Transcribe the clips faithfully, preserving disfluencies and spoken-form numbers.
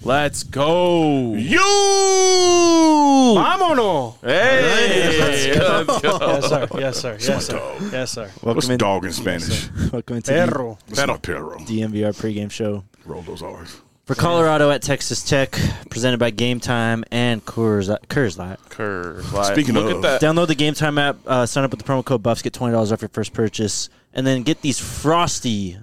Let's go. You! Vámonos! Hey! Let's go. Let's go. Yes, sir. Yes, sir. Yes, sir. Yes, sir. What's in, dog in Spanish? Welcome into Perro. It's not perro. the D M V R pregame show. Roll those R's. For Colorado at Texas Tech, presented by Game Time and Coors, Coors Light. Coors Light. Speaking Look of- at that. Download the Game Time app, uh, sign up with the promo code Buffs, get twenty dollars off your first purchase, and then get these frosty,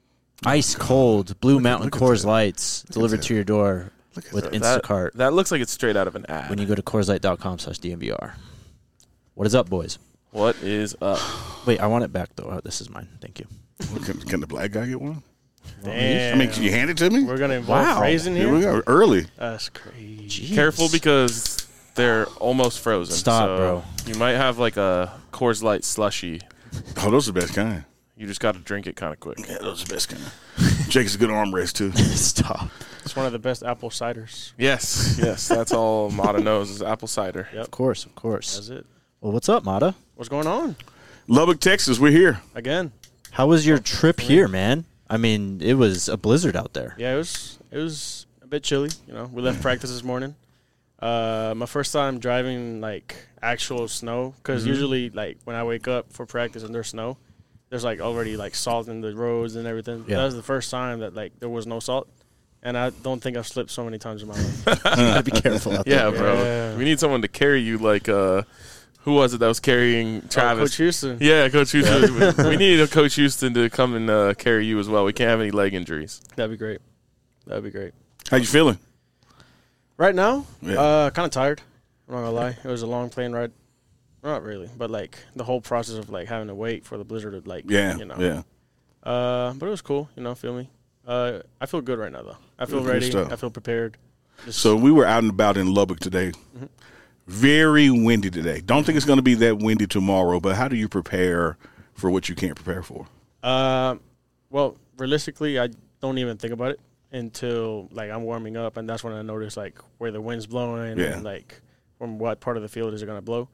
ice-cold Blue Mountain look at Coors that. Lights delivered to your door Look at with that. That- Instacart That looks like it's straight out of an ad. when you go to CoorsLight.com slash DMVR. What is up, boys? What is up? Wait, I want it back, though. Oh, this is mine. Thank you. Can, can the black guy get one? Damn. I mean, can you hand it to me? We're going to involve Wow. phrasing Here here? we go. Early. That's crazy. Jeez. Careful because they're almost frozen. Stop, so bro. You might have like a Coors Light slushy. Oh, those are the best kind. You just got to drink it kind of quick. Yeah, those are the best kind. Jake's a good arm rest, too. Stop. It's one of the best apple ciders. Yes, yes. That's all Mata knows is apple cider. Yep. Of course, of course. That's it. Well, what's up, Mata? What's going on? Lubbock, Texas, we're here. Again. How was your trip here, man? I mean, it was a blizzard out there. Yeah, it was it was a bit chilly. You know, we left practice this morning. Uh, my first time driving like actual snow, because Mm-hmm. usually like when I wake up for practice and there's snow, there's like already like salt in the roads and everything. Yeah. That was the first time that like there was no salt, and I don't think I've slipped so many times in my life. You gotta be careful out Yeah, there. bro. Yeah. We need someone to carry you like uh who was it that was carrying Oh, Travis? Coach Houston. Yeah, Coach Houston. we need a Coach Houston to come and uh, carry you as well. We can't have any leg injuries. That'd be great. That'd be great. How you feeling? Right now, Yeah. uh, kind of tired. I'm not gonna lie. It was a long plane ride. Not really, but like the whole process of like having to wait for the blizzard to like, Yeah, you know. yeah. Uh, but it was cool. You know, feel me. Uh, I feel good right now though. I feel Good ready. stuff. I feel prepared. Just- So we were out and about in Lubbock today. Mm-hmm. Very windy today. Don't think it's going to be that windy tomorrow, but how do you prepare for what you can't prepare for? Uh, well, realistically, I don't even think about it until like I'm warming up, and that's when I notice like where the wind's blowing Yeah. and like from what part of the field is it gonna blow.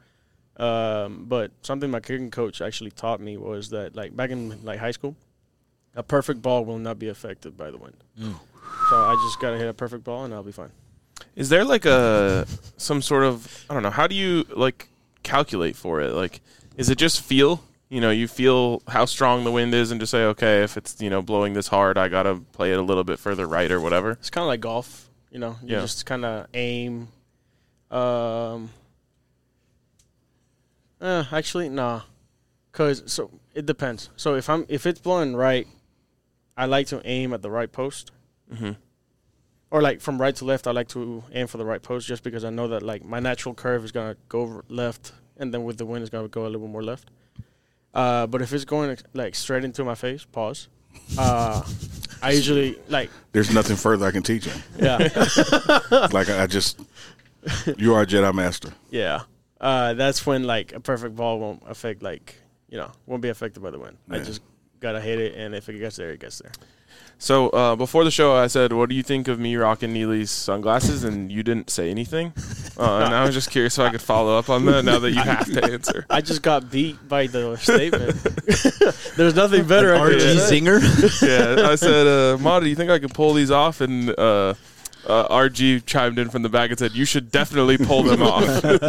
Um, but something my kicking coach actually taught me was that like back in like high school, a perfect ball will not be affected by the wind. Mm. So I just gotta hit a perfect ball and I'll be fine. Is there like a some sort of I don't know, how do you like calculate for it? Like is it just feel? You know, you feel how strong the wind is and just say, okay, if it's, you know, blowing this hard, I got to play it a little bit further right or whatever. It's kind of like golf, you know. You Yeah. just kind of aim. Um. Uh, actually, nah, cause so it depends. So if I'm if it's blowing right, I like to aim at the right post. Mm-hmm. Or like from right to left, I like to aim for the right post, just because I know that like my natural curve is gonna go over left, and then with the wind, it's gonna go a little bit more left. Uh, but if it's going like straight into my face, pause. Uh, I usually like There's nothing further I can teach you. yeah. Like I I just, you are a Jedi Master. Yeah, uh, that's when like a perfect ball won't affect like you know won't be affected by the wind. I Yeah. just gotta hit it, and if it gets there, it gets there. So uh, before the show, I said, what do you think of me rocking Neely's sunglasses? And you didn't say anything. Uh, and I was just curious if I could follow up on that now that you have to answer. I just got beat by the statement. There's nothing better. I R could G say. Zinger. Yeah, I said, uh, Mata, do you think I can pull these off? And uh, uh, R G chimed in from the back and said, you should definitely pull them off.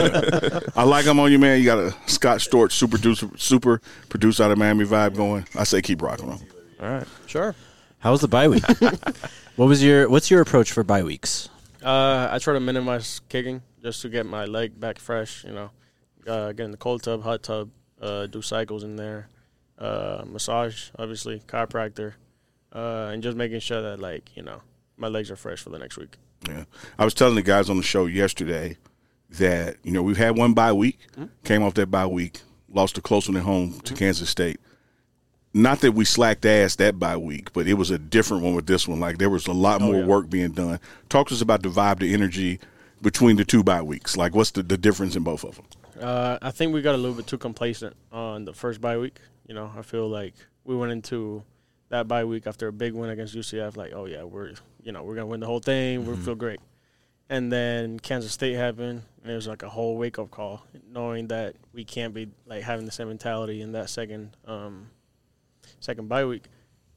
I like them on you, man. You got a Scott Storch super producer, super producer out of Miami vibe going. I say keep rocking them. All right. Sure. How was the bye week? What was your What's your approach for bye weeks? Uh, I try to minimize kicking just to get my leg back fresh. You know, uh, get in the cold tub, hot tub, uh, do cycles in there, uh, massage, obviously, chiropractor, uh, and just making sure that like you know my legs are fresh for the next week. Yeah, I was telling the guys on the show yesterday that you know we've had one bye week, Mm-hmm. came off that bye week, lost a close one at home to Kansas State. Not that we slacked ass that bye week, but it was a different one with this one. Like there was a lot more yeah. work being done. Talk to us about the vibe, the energy between the two bye weeks. Like what's the, the difference in both of them? Uh, I think we got a little bit too complacent on the first bye week. You know, I feel like we went into that bye week after a big win against U C F, like, oh yeah, we're you know we're gonna win the whole thing. We feel great. And then Kansas State happened, and it was like a whole wake up call, knowing that we can't be like having the same mentality in that second um, second bye week.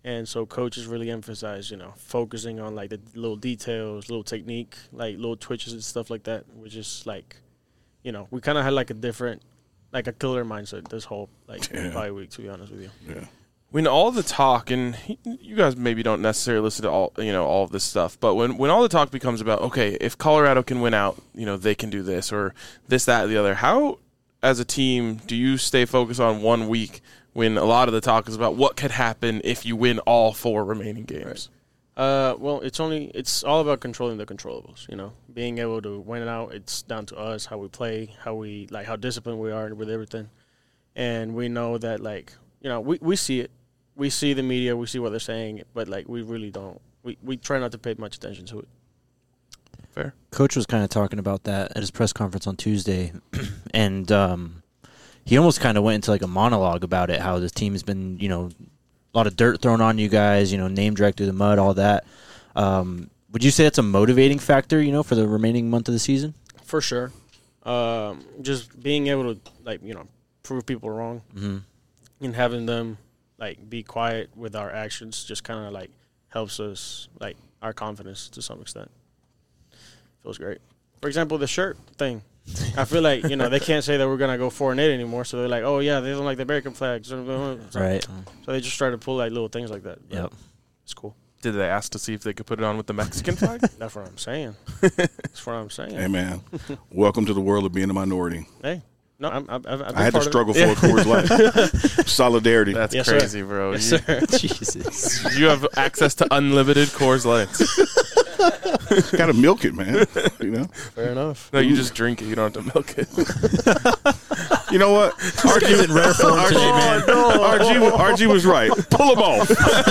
And so coaches really emphasize, you know, focusing on like the little details, little technique, like little twitches and stuff like that, which is like, you know, we kind of had like a different, like a killer mindset this whole like Yeah. bye week, to be honest with you. Yeah. When all the talk, and you guys maybe don't necessarily listen to all you know all of this stuff, but when, when all the talk becomes about, okay, if Colorado can win out, you know, they can do this or this, that, the other, how as a team do you stay focused on one week when a lot of the talk is about what could happen if you win all four remaining games? Uh, well, it's only it's all about controlling the controllables. You know, being able to win it out. It's down to us, how we play, how we like, how disciplined we are with everything, and we know that like you know we, we see it, we see the media, we see what they're saying, but like we really don't. We we try not to pay much attention to it. Fair. Coach was kind of talking about that at his press conference on Tuesday, and um, he almost kind of went into like a monologue about it, how this team has been, you know, a lot of dirt thrown on you guys, you know, name dragged through the mud, all that. Um, would you say that's a motivating factor, you know, for the remaining month of the season? For sure. Um, just being able to, like, you know, prove people wrong Mm-hmm. and having them, like, be quiet with our actions just kind of, like, helps us, like, our confidence to some extent. Feels great. For example, the shirt thing. I feel like, you know, they can't say that we're going to go four and eight anymore, so they're like, oh, yeah, they don't like the American flags. So, Right. So they just try to pull, like, little things like that. But Yep. It's cool. Did they ask to see if they could put it on with the Mexican flag? That's what I'm saying. That's what I'm saying. Hey, man. Welcome to the world of being a minority. Hey. No, I'm, I've, I've been I had to part of it. struggle for a Coors Light. Solidarity. That's Yes, sir. crazy, bro. Yes, you, sir. Jesus. you have access to unlimited Coors Lights. Got to milk it, man. You know. Fair enough. No, you just drink it. You don't have to milk it. You know what? R G in rare form R G, today, man. R G, R G was right. Pull him off.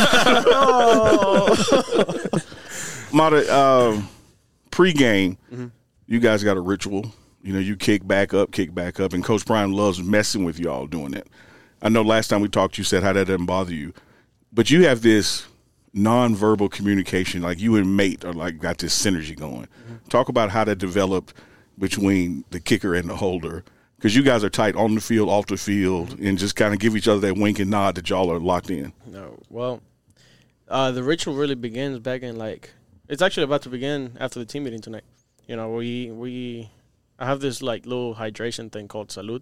Mata, um, pre-game, Mm-hmm. you guys got a ritual. You know, you kick back up, kick back up, and Coach Prime loves messing with y'all doing that. I know last time we talked, you said how that doesn't bother you, but you have this nonverbal communication, like you and Mate are like got this synergy going. Mm-hmm. Talk about how that developed between the kicker and the holder, because you guys are tight on the field, off the field, mm-hmm. and just kind of give each other that wink and nod that y'all are locked in. No, well, uh, the ritual really begins back in like it's actually about to begin after the team meeting tonight. You know, we we I have this like little hydration thing called Salud,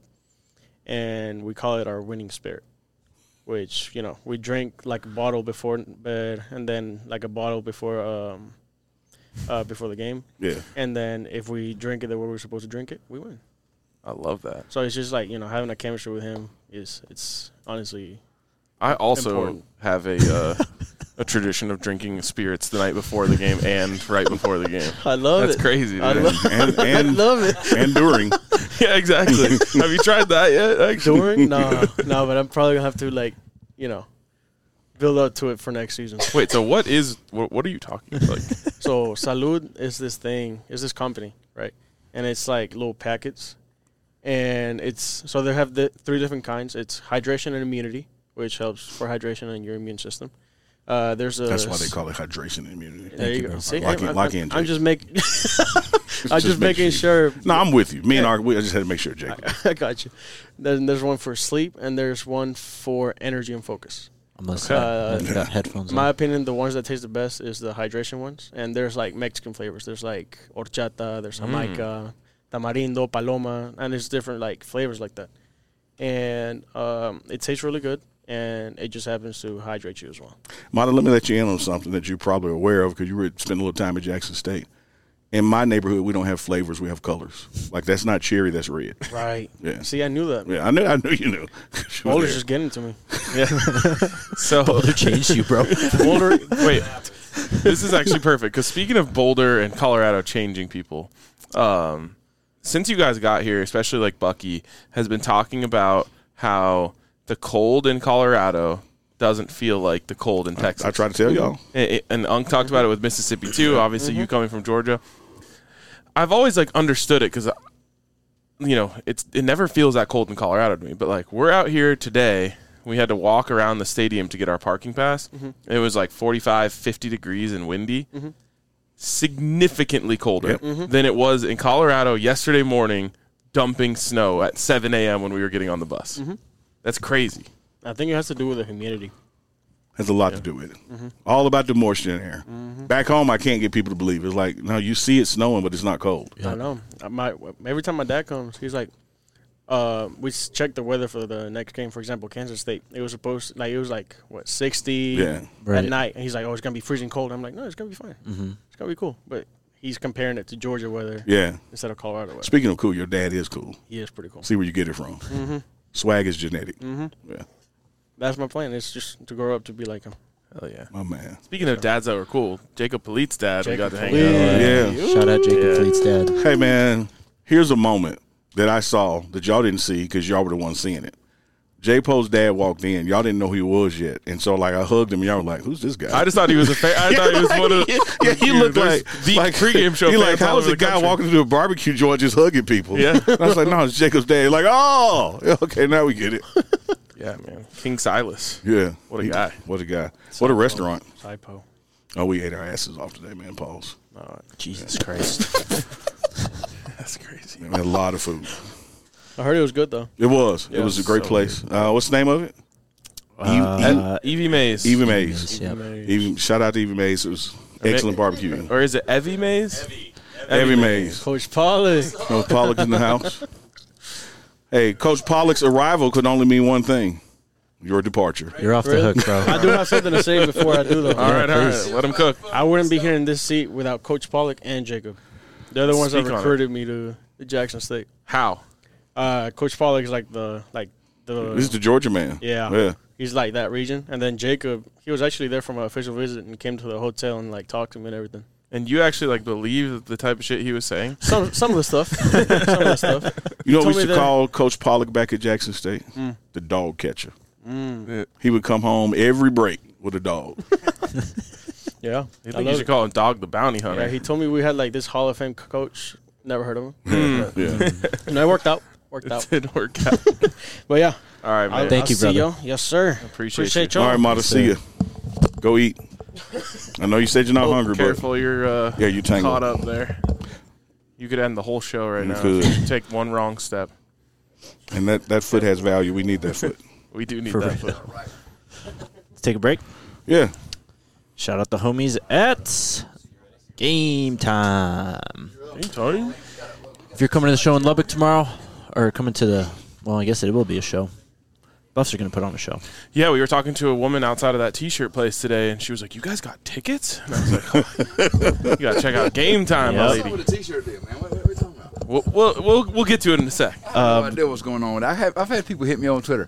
and we call it our winning spirit. Which, you know, we drink like a bottle before bed, and then like a bottle before um uh before the game, Yeah. and then if we drink it the way we're supposed to drink it, we win. I love that. So it's just like, you know, having a chemistry with him is it's honestly I also Important. have a uh, a tradition of drinking spirits the night before the game and right before the game. I love That's it. crazy, dude. I love, And I and, love it. and during. Yeah, exactly. Have you tried that yet? Actually, During? No, no, but I'm probably gonna have to like, you know, build up to it for next season. Wait. So what is what? What are you talking about? Like, So Salud is this thing, is this company, right? And it's like little packets, and it's so they have the three different kinds. It's hydration and immunity, which helps for hydration and your immune system. Uh, there's a That's why they call it hydration and immunity. There you you, go. bro. See, Lock in- I'm, lock I'm, in, I'm Jake. just making. I'm just, just make making sure. No, I'm with you. Me and our, we, I just had to make sure, Jake. I got you. Then there's one for sleep, and there's one for energy and focus. Unless Okay. uh, you Okay. got headphones In my on. opinion, the ones that taste the best is the hydration ones, and there's like Mexican flavors. There's like horchata, there's jamaica, tamarindo, paloma, and there's different like flavors like that. And um, it tastes really good, and it just happens to hydrate you as well. Mata, let me let you in on something that you're probably aware of because you were spending a little time at Jackson State. In my neighborhood, we don't have flavors; we have colors. Like that's not cherry, that's red. Right. Yeah. See, I knew that. Yeah, I knew. I knew you knew. You were Boulder's there. just getting to me. so Boulder changed you, bro. Boulder. Wait, this is actually perfect because speaking of Boulder and Colorado changing people, um, since you guys got here, especially like Bucky has been talking about how the cold in Colorado doesn't feel like the cold in Texas. I tried to tell y'all. And, it- and Unk talked about it with Mississippi too. Obviously, you coming from Georgia, I've always like understood it because, you know, it's it never feels that cold in Colorado to me. But like we're out here today, we had to walk around the stadium to get our parking pass. It was like forty-five, fifty degrees and windy, significantly colder Yep. than it was in Colorado yesterday morning, dumping snow at seven a.m. when we were getting on the bus. That's crazy. I think it has to do with the humidity. has a lot Yeah. to do with it. Mm-hmm. All about the moisture in the air. Mm-hmm. Back home, I can't get people to believe. It's like, no, you see it snowing, but it's not cold. I know. I might, every time my dad comes, he's like, uh, we s- check the weather for the next game. For example, Kansas State. It was supposed like it was like what sixty Yeah. Right. at night, and he's like, "Oh, it's gonna be freezing cold." I'm like, "No, it's gonna be fine. Mm-hmm. It's gonna be cool." But he's comparing it to Georgia weather Yeah. instead of Colorado weather. Speaking of cool, your dad is cool. He is pretty cool. See where you get it from. Mm-hmm. Swag is genetic. Mm-hmm. Yeah. That's my plan. It's just to grow up to be like him. Hell yeah. My man. Speaking of dads that were cool, Jacob Polite's dad, we got Jacob to hang Polite. out with. Yeah. Shout out Jacob Yeah. Fleet's dad. Hey, man, here's a moment that I saw that y'all didn't see because y'all were the ones seeing it. J-Po's dad walked in. Y'all didn't know who he was yet. And so, like, I hugged him, and y'all were like, who's this guy? I just thought he was a fan. I thought he was one of the. yeah, he looked There's like deep like pregame show He like, fans how all was over a the guy country. walking into a barbecue joint just hugging people? Yeah. And I was like, no, it's Jacob's dad. Like, oh, okay, now we get it. Yeah, man. King Silas. Yeah, What a He- guy. What a guy. What a restaurant. Typo. Oh, we ate our asses off today, man. Pause. Oh, Jesus Christ. that's crazy. We had a lot of food. I heard it was good though. It was. Yeah, it was a great so place. Uh, what's the name of it? Uh, Evie Mays. Evie Mays. Yep. Evie, shout out to Evie Mays. It was excellent barbecue. Or is it Evie Mays? Evie Mays. Coach Pollock. Coach Pollock in the house. Hey, Coach Pollock's arrival could only mean one thing: your departure. You're off the Really? hook, bro. I do have something to say before I do though. All right, all please. right. Let him cook. I wouldn't be here in this seat without Coach Pollock and Jacob. They're the ones Speak that on it. recruited me to, to Jackson State. How? Uh, Coach Pollock is like the like the This is the Georgia man. yeah. Yeah. He's like that region, and then Jacob, he was actually there from an official visit and came to the hotel and like talked to me and everything. And you actually like believe the type of shit he was saying? Some some of the stuff, some of the stuff. You know what we told me used to that- call Coach Pollock back at Jackson State? Mm. The dog catcher. Mm. He would come home every break with a dog. Yeah, I I think you love should it. call him Dog the Bounty Hunter. Yeah, he told me we had like this Hall of Fame coach. Never heard of him. Mm. Yeah. No, it worked out. Worked It out. didn't work out. But yeah, All right, man. I'll, Thank I'll you, see brother. y'all. Yes, sir. Appreciate Appreciate you. y'all. All right, Mata, see ya. Go eat. I know you said you're not Oh, hungry, careful, you're uh, but yeah, you tangled. caught up there. You could end the whole show right You now could. if you take one wrong step. And that, that foot has value. We need that foot. We do need For that. real. foot. Let's take a break. Yeah. Shout out the homies at Game Time. Anytime. If you're coming to the show in Lubbock tomorrow, or coming to the, well, I guess it will be a show. Buffs are going to put on a show. Yeah, we were talking to a woman outside of that T-shirt place today, and she was like, "You guys got tickets?" And I was like, oh, "You got to check out Game Time, my Yep. lady." With a T-shirt deal, man. What, what are we talking about? We'll, we'll we'll we'll get to it in a sec. I have no idea what's going on with that. I have, I've had people hit me on Twitter,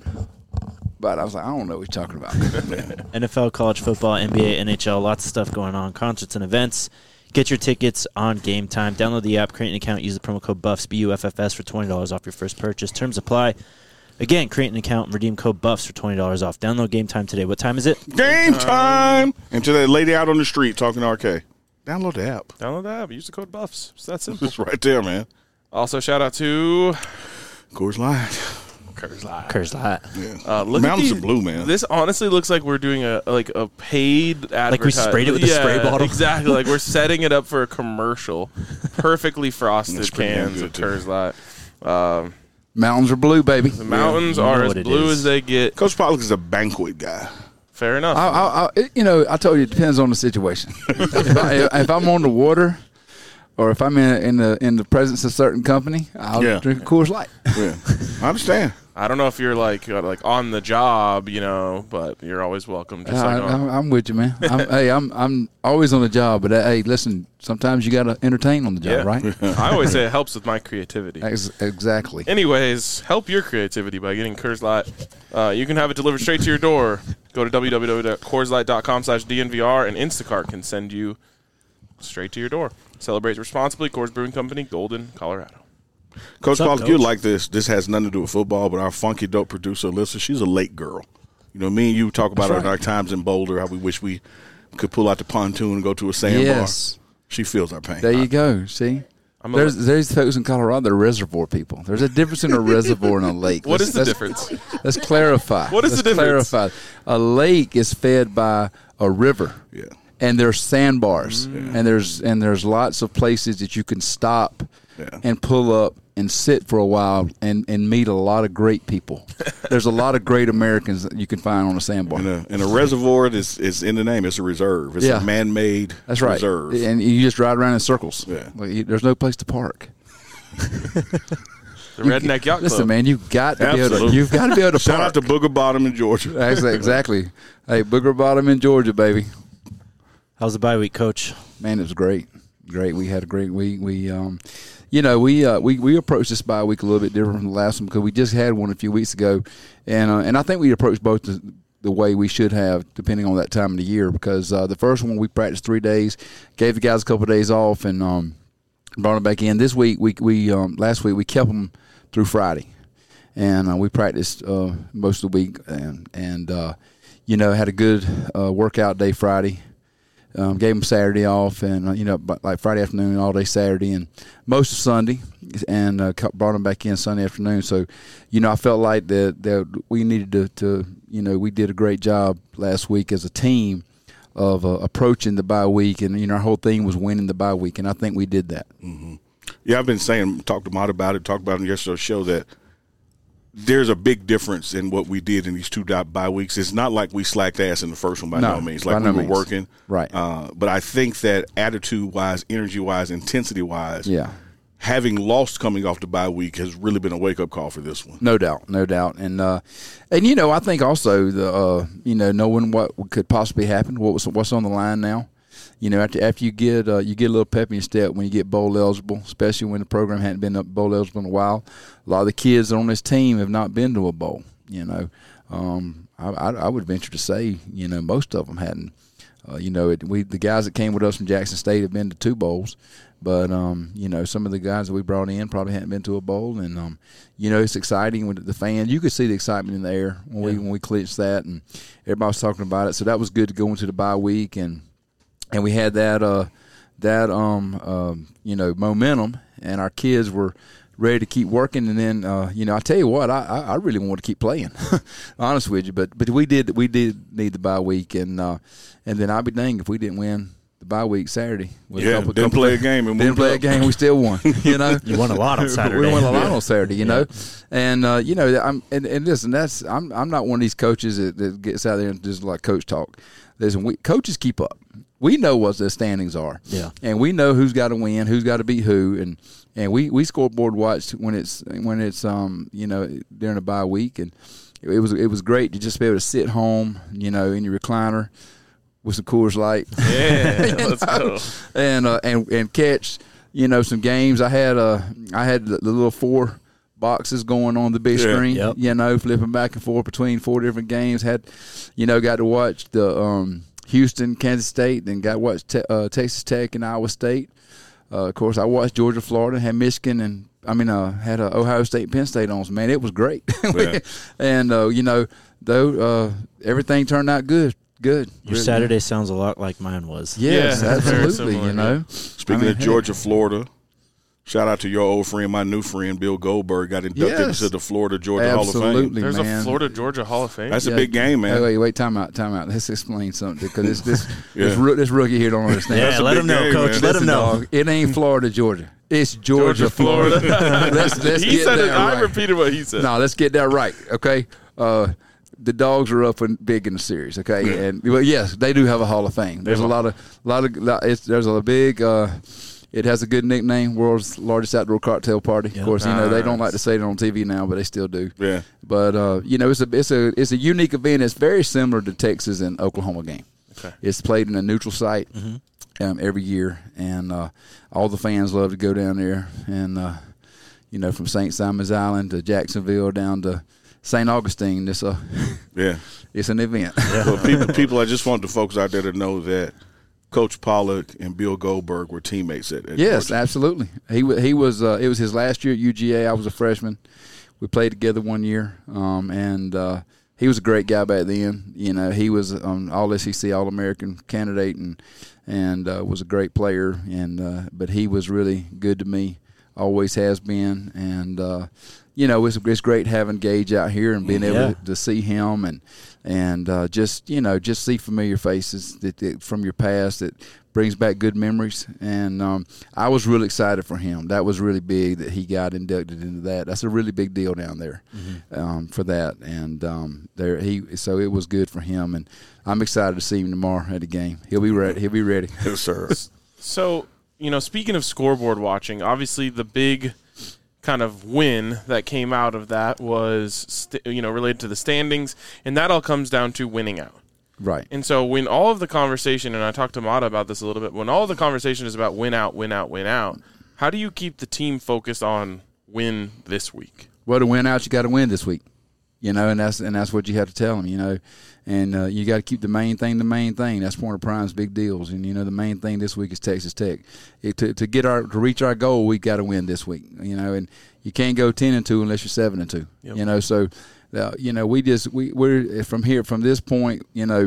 but I was like, I don't know what you're talking about. N F L, college football, N B A, N H L, lots of stuff going on, concerts and events. Get your tickets on Game Time. Download the app, create an account, use the promo code BUFFS, B U F F S, for twenty dollars off your first purchase. Terms apply. Again, create an account and redeem code BUFFS for twenty dollars off. Download Game Time today. What time is it? Game time. And to that lady out on the street talking to R K, download the app. Download the app. Use the code BUFFS. It's that simple. It's right there, man. Also, shout out to Coors Light. Curse Live. Curse Light. Yeah. Uh, look Mountains at of blue, man. This honestly looks like we're doing a like a paid advertisement. we sprayed it with a yeah, spray bottle? Exactly. Like we're setting it up for a commercial. Perfectly frosted That's pretty damn cans good, of too. Curse Light. Um, Mountains are blue, baby. the mountains you know are as what it blue is. as they get. Coach Pollock is a banquet guy. Fair enough. I, I, I, it- you know, I told you it depends on the situation. if, I, if I'm on the water, or if I'm in in the in the presence of certain company, I'll Yeah. drink a Coors Light. Yeah. I understand. I don't know if you're like uh, like on the job, you know, but you're always welcome. Just I, like on, I'm, I'm with you, man. I'm, hey, I'm I'm always on the job, but uh, hey, listen, sometimes you got to entertain on the job, yeah. right? I always say it helps with my creativity. Ex- exactly. Anyways, help your creativity by getting Coors Light. Uh, you can have it delivered straight to your door. Go to w w w dot coors light dot com slash D N V R, and Instacart can send you straight to your door. Celebrate responsibly. Coors Brewing Company, Golden, Colorado. Coach What's up, Pollock, you Coach? like this. This has nothing to do with football, but our funky dope producer, Alyssa, she's a lake girl. You know, me and you talk about That's our, right. our times in Boulder, how we wish we could pull out the pontoon and go to a sandbar. Yes. She feels our pain. There you go. See, I'm a- there's there's folks in Colorado that are reservoir people. There's a difference in a reservoir and a lake. What Let's- is the let's- difference? Let's clarify. What is Let's the difference? Clarify. A lake is fed by a river. Yeah. And there's sandbars, Mm. and there's and there's lots of places that you can stop Yeah. and pull up and sit for a while and, and meet a lot of great people. There's a lot of great Americans that you can find on a sandbar. And a, and a reservoir is, is in the name. It's a reserve. It's Yeah. a man-made That's right. reserve. And you just ride around in circles. Yeah. Like, you, there's no place to park. The Redneck Yacht Club. Listen, man, you've got to be able to. Absolutely. You've got to be able to Shout park. out to Booger Bottom in Georgia. Exactly, exactly. Hey, Booger Bottom in Georgia, baby. How's the bye week, Coach? Man, it was great. Great. We had a great week. We, um, you know, we uh, we we approached this bye week a little bit different from the last one because we just had one a few weeks ago, and uh, and I think we approached both the, the way we should have, depending on that time of the year. Because uh, the first one we practiced three days, gave the guys a couple of days off, and um, brought them back in. This week we we um, last week we kept them through Friday, and uh, we practiced uh, most of the week, and and uh, you know had a good uh, workout day Friday. Um, gave them Saturday off, and uh, you know, like Friday afternoon, all day Saturday, and most of Sunday, and uh, brought them back in Sunday afternoon. So, you know, I felt like that that we needed to, to, you know, we did a great job last week as a team of uh, approaching the bye week, and you know, our whole thing was winning the bye week, and I think we did that. Mm-hmm. Yeah, I've been saying, talked to Mott about it, talked about it in yesterday's show that there's a big difference in what we did in these two bye weeks. It's not like we slacked ass in the first one by no, no means. Like by we no were means. working. Right. Uh, but I think that attitude-wise, energy-wise, intensity-wise, Yeah. having lost coming off the bye week has really been a wake-up call for this one. No doubt, no doubt, and uh, and you know, I think also the uh, you know knowing what could possibly happen, what was what's on the line now. You know, after after you get uh, you get a little pep in your step when you get bowl eligible, especially when the program hadn't been up bowl eligible in a while. A lot of the kids on this team have not been to a bowl. You know, um, I, I, I would venture to say, you know, most of them hadn't. Uh, you know, it, we the guys that came with us from Jackson State have been to two bowls, but um, you know, some of the guys that we brought in probably hadn't been to a bowl, and um, you know, it's exciting with the fans. You could see the excitement in the air when we when we clinched that, and everybody was talking about it. So that was good to go into the bye week, and. And we had that uh, that um, um, you know momentum, and our kids were ready to keep working. And then uh, you know I tell you what, I, I, I really wanted to keep playing, honest with you. But but we did we did need the bye week, and uh, and then I'd be dang if we didn't win the bye week Saturday. With Yeah, a couple, didn't couple play of, a game and didn't moved play a up. game. We still won. You know, You won a lot on Saturday. we won a lot Yeah. on Saturday. You know, and uh, you know I'm and, and listen, that's I'm I'm not one of these coaches that, that gets out there and just like coach talk. Listen, we coaches keep up. We know what the standings are, Yeah. and we know who's got to win, who's got to beat who, and and we, we scoreboard watch when it's when it's um you know during a bye week, and it was it was great to just be able to sit home, you know, in your recliner with some Coors Light, Yeah, let's go. and uh, and and catch you know some games. I had uh I had the, the little four boxes going on the big Yeah. screen, Yep. you know, flipping back and forth between four different games. Had you know got to watch the um. Houston, Kansas State, then got watched te- uh, Texas Tech and Iowa State. Uh, of course, I watched Georgia, Florida, had Michigan, and I mean, uh, had uh, Ohio State, Penn State on. So, man, it was great. Yeah. and uh, you know, though uh, everything turned out good. Good. Your Really. Saturday sounds a lot like mine was. Yes, Yeah, very absolutely. similar, You know, Speaking I mean, of hey. Georgia, Florida, shout out to your old friend, my new friend, Bill Goldberg, got inducted Yes. into the Florida Georgia Hall of Fame. Absolutely, There's man. a Florida Georgia Hall of Fame. That's Yeah. a big game, man. Wait, wait, wait, time out, time out. Let's explain something because this this Yeah. this, roo- this rookie here don't understand. Yeah, That's a let big him know, game, Coach. man. Let him Listen, know. dog, it ain't Florida, Georgia. It's Georgia, Georgia, Florida. Florida. let's let's he get said that it. I right. repeated what he said. No, let's get that right, okay? Uh, the Dogs are up and big in the series, okay? Yeah. And well, yes, they do have a Hall of Fame. There's a lot of, lot of, lot, it's, there's a big. Uh, it has a good nickname, world's largest outdoor cocktail party. Yeah. Of course, you know they don't Nice. like to say it on T V now, but they still do. Yeah. But uh, you know, it's a it's a it's a unique event. It's very similar to Texas and Oklahoma game. Okay. It's played in a neutral site Mm-hmm. um, every year, and uh, all the fans love to go down there. And uh, you know, from Saint Simon's Island to Jacksonville down to Saint Augustine, it's a Yeah. it's an event. Well, people, people, I just want the folks out there to know that Coach Pollock and Bill Goldberg were teammates at, at Yes, Georgia. absolutely. He wa- he was. Uh, it was his last year at U G A. I was a freshman. We played together one year, um, and uh, he was a great guy back then. You know, he was um, all S E C, All American candidate, and and uh, was a great player. And uh, but he was really good to me. Always has been, and uh, you know, it's, it's great having Gage out here and being able Yeah. to, to see him and and uh, just you know just see familiar faces that, that from your past that brings back good memories. And um, I was really excited for him. That was really big that he got inducted into that. That's a really big deal down there mm-hmm. um, for that. And um, there he so it was good for him. And I'm excited to see him tomorrow at the game. He'll be ready. He'll be ready. Yes, sir. So, you know, speaking of scoreboard watching, obviously the big kind of win that came out of that was, st- you know, related to the standings, and that all comes down to winning out. Right. And so when all of the conversation, and I talked to Mata about this a little bit, when all of the conversation is about win out, win out, win out, how do you keep the team focused on win this week? Well, to win out, you got to win this week. You know, and that's and that's what you have to tell them, you know. And uh, you got to keep the main thing the main thing. That's one of Prime's big deals. And, you know, the main thing this week is Texas Tech. It, to to get our to reach our goal, we got to win this week, you know. And you can't go ten and two unless you're seven and two, yep. you know. So, uh, you know, we just, we, we're from here, from this point, you know,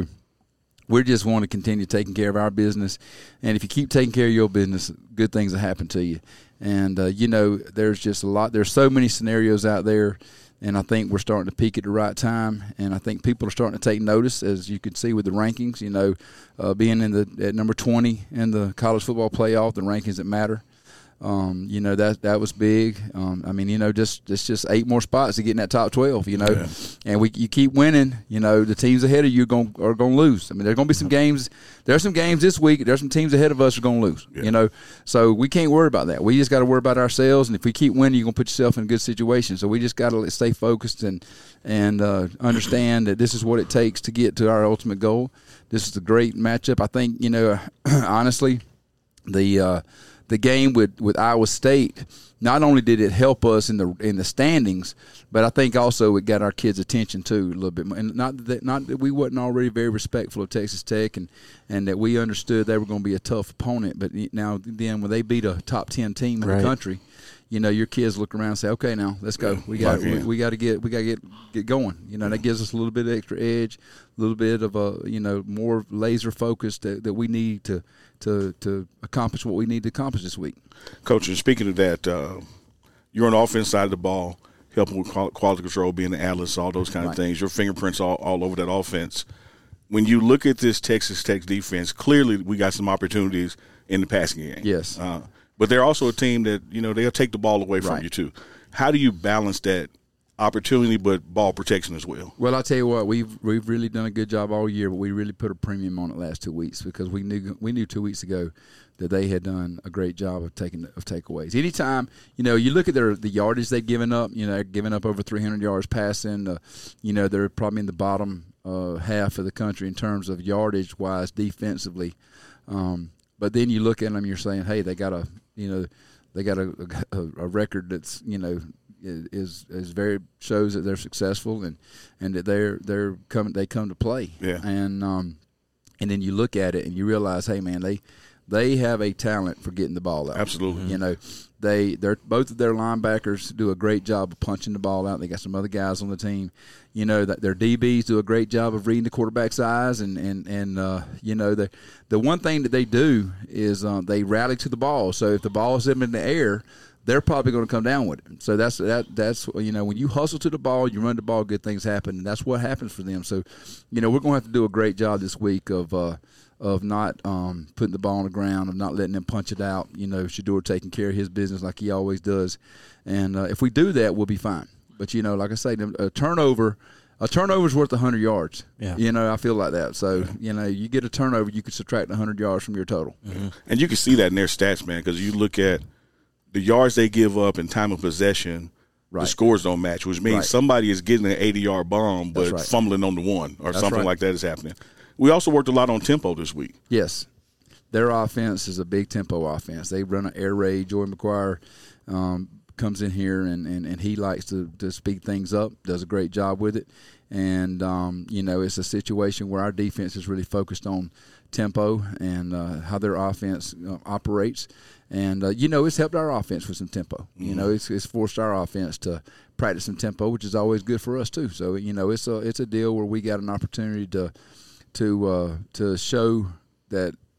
we just want to continue taking care of our business. And if you keep taking care of your business, good things will happen to you. And, uh, you know, there's just a lot, there's so many scenarios out there. And I think we're starting to peak at the right time, and I think people are starting to take notice, as you can see with the rankings. You know, uh, being in the at number twenty in the college football playoff, the rankings that matter. Um, you know, that that was big. Um, I mean, you know, just it's just eight more spots to get in that top twelve. You know, yeah. and we you keep winning. You know, the teams ahead of you are going are going to lose. I mean, there's going to be some games. There's some games this week. There's some teams ahead of us who are going to lose. Yeah. You know, so we can't worry about that. We just got to worry about ourselves. And if we keep winning, you're going to put yourself in a good situation. So we just got to stay focused and and uh, understand that this is what it takes to get to our ultimate goal. This is a great matchup. I think, you know, honestly, the uh, the game with, with Iowa State, not only did it help us in the in the standings, but I think also it got our kids' attention too a little bit more. And not that not that we wasn't already very respectful of Texas Tech, and, and that we understood they were going to be a tough opponent. But now then, when they beat a top ten team in right. the country, you know, your kids look around and say, "Okay, now let's go. We got we, we got to get we got to get get going." You know, that gives us a little bit of extra edge, a little bit of a you know more laser focus that, that we need to to to accomplish what we need to accomplish this week. Coach, and speaking of that, uh, you're on the offense side of the ball, helping with quality control, being the analyst, all those kind of right. things. Your fingerprints all, all over that offense. When you look at this Texas Tech defense, clearly we got some opportunities in the passing game. Yes. Uh, but they're also a team that, you know, they'll take the ball away from right. you too. How do you balance that opportunity but ball protection as well? Well, I'll tell you what, we've we've really done a good job all year, but we really put a premium on it last two weeks because we knew we knew two weeks ago that they had done a great job of taking of takeaways. Anytime, you know, you look at their the yardage they've given up, you know, they're giving up over three hundred yards passing. Uh, you know, they're probably in the bottom uh, half of the country in terms of yardage-wise defensively. Um, but then you look at them, you're saying, hey, they got a, you know, they got a, a, a record that's, you know, is is very shows that they're successful and, and that they're they're coming they come to play. Yeah. And um, and then you look at it and you realize, hey man, they they have a talent for getting the ball out. Absolutely. You know, they they're both of their linebackers do a great job of punching the ball out. They got some other guys on the team. You know, that their D Bs do a great job of reading the quarterback's eyes and and and uh, you know, the the one thing that they do is um, they rally to the ball. So if the ball is in the air, they're probably going to come down with it. So that's that. That's you know, when you hustle to the ball, you run the ball, good things happen, and that's what happens for them. So, you know, we're going to have to do a great job this week of uh, of not um, putting the ball on the ground, of not letting them punch it out. You know, Shedeur taking care of his business like he always does, and uh, if we do that, we'll be fine. But you know, like I say, a turnover. A turnover's worth one hundred yards. Yeah. You know, I feel like that. So, you know, you get a turnover, you can subtract one hundred yards from your total. Mm-hmm. And you can see that in their stats, man, because you look at the yards they give up in time of possession, right. the scores don't match, which means right. somebody is getting an eighty-yard bomb but right. fumbling on the one or That's something right. like that is happening. We also worked a lot on tempo this week. Yes. Their offense is a big tempo offense. They run an air raid. Joey McGuire um, comes in here, and, and, and he likes to, to speed things up, does a great job with it. And, um, you know, it's a situation where our defense is really focused on tempo and uh, how their offense uh, operates. And, uh, you know, it's helped our offense with some tempo. Mm-hmm. You know, it's, it's forced our offense to practice some tempo, which is always good for us too. So, you know, it's a it's a deal where we got an opportunity to to uh, to show that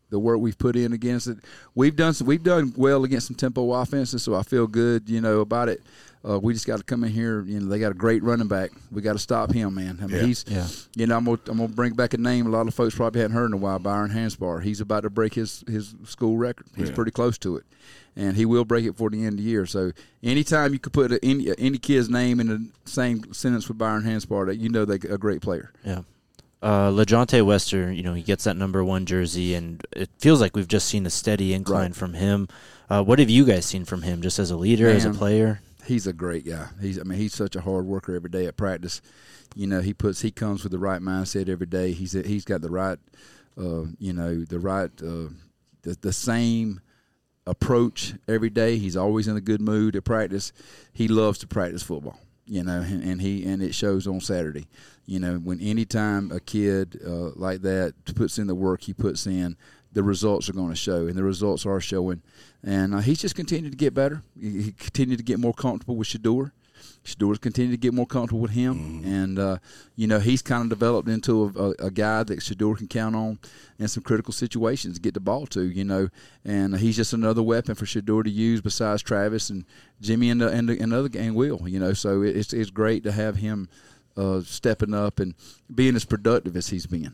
the work we've put in against it. We've done some, we've done well against some tempo offenses, so I feel good, you know, about it. Uh, we just got to come in here. You know, they got a great running back. We got to stop him, man. I mean, Yeah. he's, Yeah. you know, I'm gonna, I'm gonna bring back a name a lot of folks probably hadn't heard in a while. Byron Hansbar. He's about to break his his school record. He's Yeah. pretty close to it, and he will break it before the end of the year. So anytime you could put a, any any kid's name in the same sentence with Byron Hansbar, that you know they're a great player. Yeah. Uh, LeJounte Wester, you know, he gets that number one jersey, and it feels like we've just seen a steady incline Right. from him. Uh, what have you guys seen from him, just as a leader, as a Man. player? He's a great guy. He's I mean he's such a hard worker every day at practice. You know, he puts he comes with the right mindset every day. He's he's got the right uh, you know, the right uh, the the same approach every day. He's always in a good mood at practice. He loves to practice football. You know, and, and he and it shows on Saturday. You know, when anytime a kid uh, like that puts in the work he puts in, the results are going to show, and the results are showing. And uh, he's just continued to get better. He, he continued to get more comfortable with Shador. Shador's continued to get more comfortable with him. Mm-hmm. And, uh, you know, he's kind of developed into a, a, a guy that Shador can count on in some critical situations to get the ball to, you know. And he's just another weapon for Shador to use besides Travis and Jimmy and, the, and, the, and other and Will, you know. So it's, it's great to have him uh, stepping up and being as productive as he's been.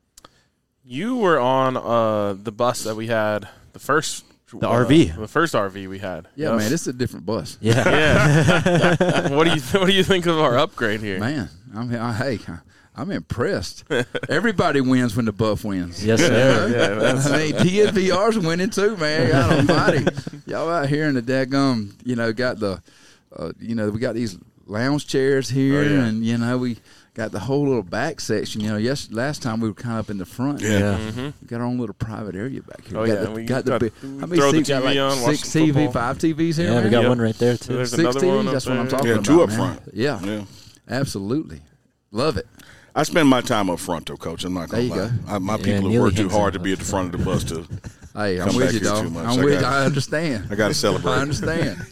You were on uh, the bus that we had, the first The uh, R V. the first R V we had. Yeah, Yes. man, this is a different bus. Yeah. Yeah. what do you What do you think of our upgrade here? Man, I'm I, hey, I'm impressed. Everybody wins when the Buff wins. Yes, sir. Yeah, that's, I mean, T S V R's winning too, man. God almighty. Y'all out here in the daggum, you know, got the, uh, you know, we got these lounge chairs here, Oh, yeah. and, you know, we got the whole little back section. You know, yes, last time we were kind of up in the front. Yeah. Yeah. mm-hmm. We got our own little private area back here. Oh, we got yeah, the, we got the got- big, we how many throw the seats? Got T V like on, watch six some T V, football. five T Vs here, Yeah, man? we got Yep. one right there, too. There's Six another T Vs, one up that's what I'm there. talking Yeah, about, two up man. front. Yeah, Yeah. absolutely. Love it. I spend my time up front, though, Coach. I'm not going to There lie. you go. I, my Yeah, people have Neely worked too hangs hard out to be at the front of the bus to. Hey, I'm Come with back you, here dog. too much. I'm I with you. got- I understand. I got to celebrate. I understand.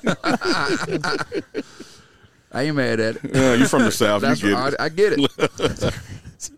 I ain't mad at it. Yeah, you're from the South. That's you get right. it. I, I get it.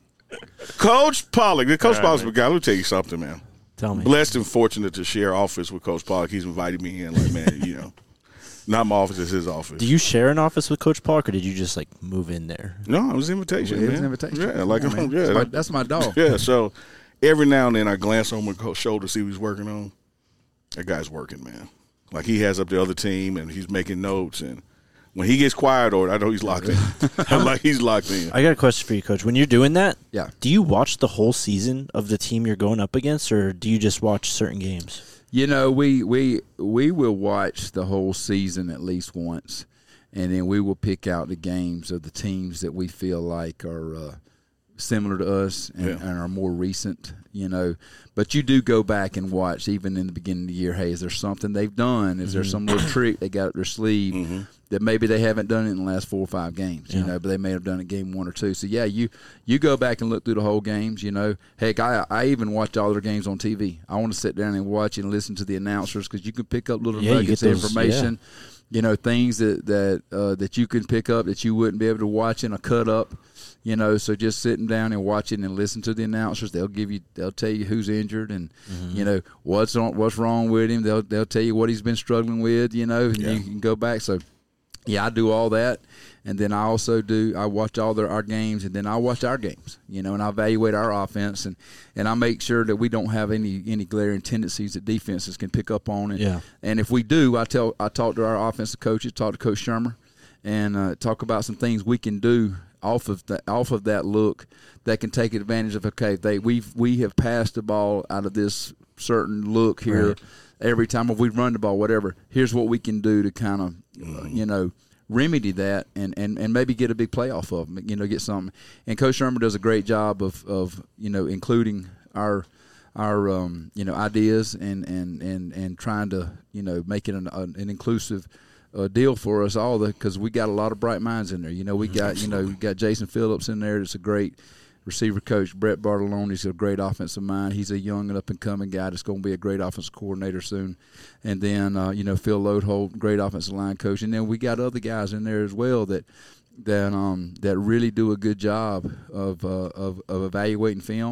Coach Pollock. The Coach All right, Pollock's man. guy. Let me tell you something, man. Tell me. Blessed and fortunate to share office with Coach Pollock. He's invited me in. Like, man, you know, not my office, it's his office. Do you share an office with Coach Park, or did you just, like, move in there? No, it was an invitation. It was man. an invitation. Yeah, like, Come on, man. yeah, That's my, that's my dog. yeah. So every now and then I glance over my shoulder to see what he's working on. That guy's working, man. Like he has up the other team and he's making notes. And when he gets quiet, or I know he's locked in. Like he's locked in. I got a question for you, Coach. When you're doing that, Yeah. do you watch the whole season of the team you're going up against, or do you just watch certain games? You know, we we we will watch the whole season at least once, and then we will pick out the games of the teams that we feel like are uh, similar to us and, Yeah. and are more recent. You know, but you do go back and watch even in the beginning of the year. Hey, is there something they've done? Is there some little trick they got up their sleeve Mm-hmm. that maybe they haven't done it in the last four or five games? You Yeah. know, but they may have done it game one or two. So yeah, you you go back and look through the whole games. You know, heck, I I even watch all their games on T V. I want to sit down and watch and listen to the announcers because you can pick up little Yeah, you nuggets get of those- information. You know, things that that uh, that you can pick up that you wouldn't be able to watch in a cut up. You know, so just sitting down and watching and listen to the announcers, they'll give you, they'll tell you who's injured and Mm-hmm. you know what's on, what's wrong with him. They'll they'll tell you what he's been struggling with. You know, and Yeah. you can go back. So yeah, I do all that, and then I also do. I watch all their, our games, and then I watch our games. You know, and I evaluate our offense, and, and I make sure that we don't have any any glaring tendencies that defenses can pick up on. And, Yeah. and if we do, I tell I talk to our offensive coaches, talk to Coach Shermer, and uh, talk about some things we can do off of that off of that look that can take advantage of. Okay, they we've we have passed the ball out of this certain look here. Right. Every time if we run the ball, whatever, here's what we can do to kind of, uh, you know, remedy that and, and, and maybe get a big play off of them, you know, get something. And Coach Shermer does a great job of, of you know, including our our um, you know ideas and, and, and, and trying to, you know, make it an, an inclusive uh, deal for us all because we got a lot of bright minds in there. You know, we got you know we got Jason Phillips in there. That's a great receiver coach. Brett Bartolone's a great offensive mind. He's a young and up-and-coming guy that's going to be a great offensive coordinator soon. And then, uh, you know, Phil Lodeholt, great offensive line coach. And then we got other guys in there as well that that um, that really do a good job of uh, of, of evaluating film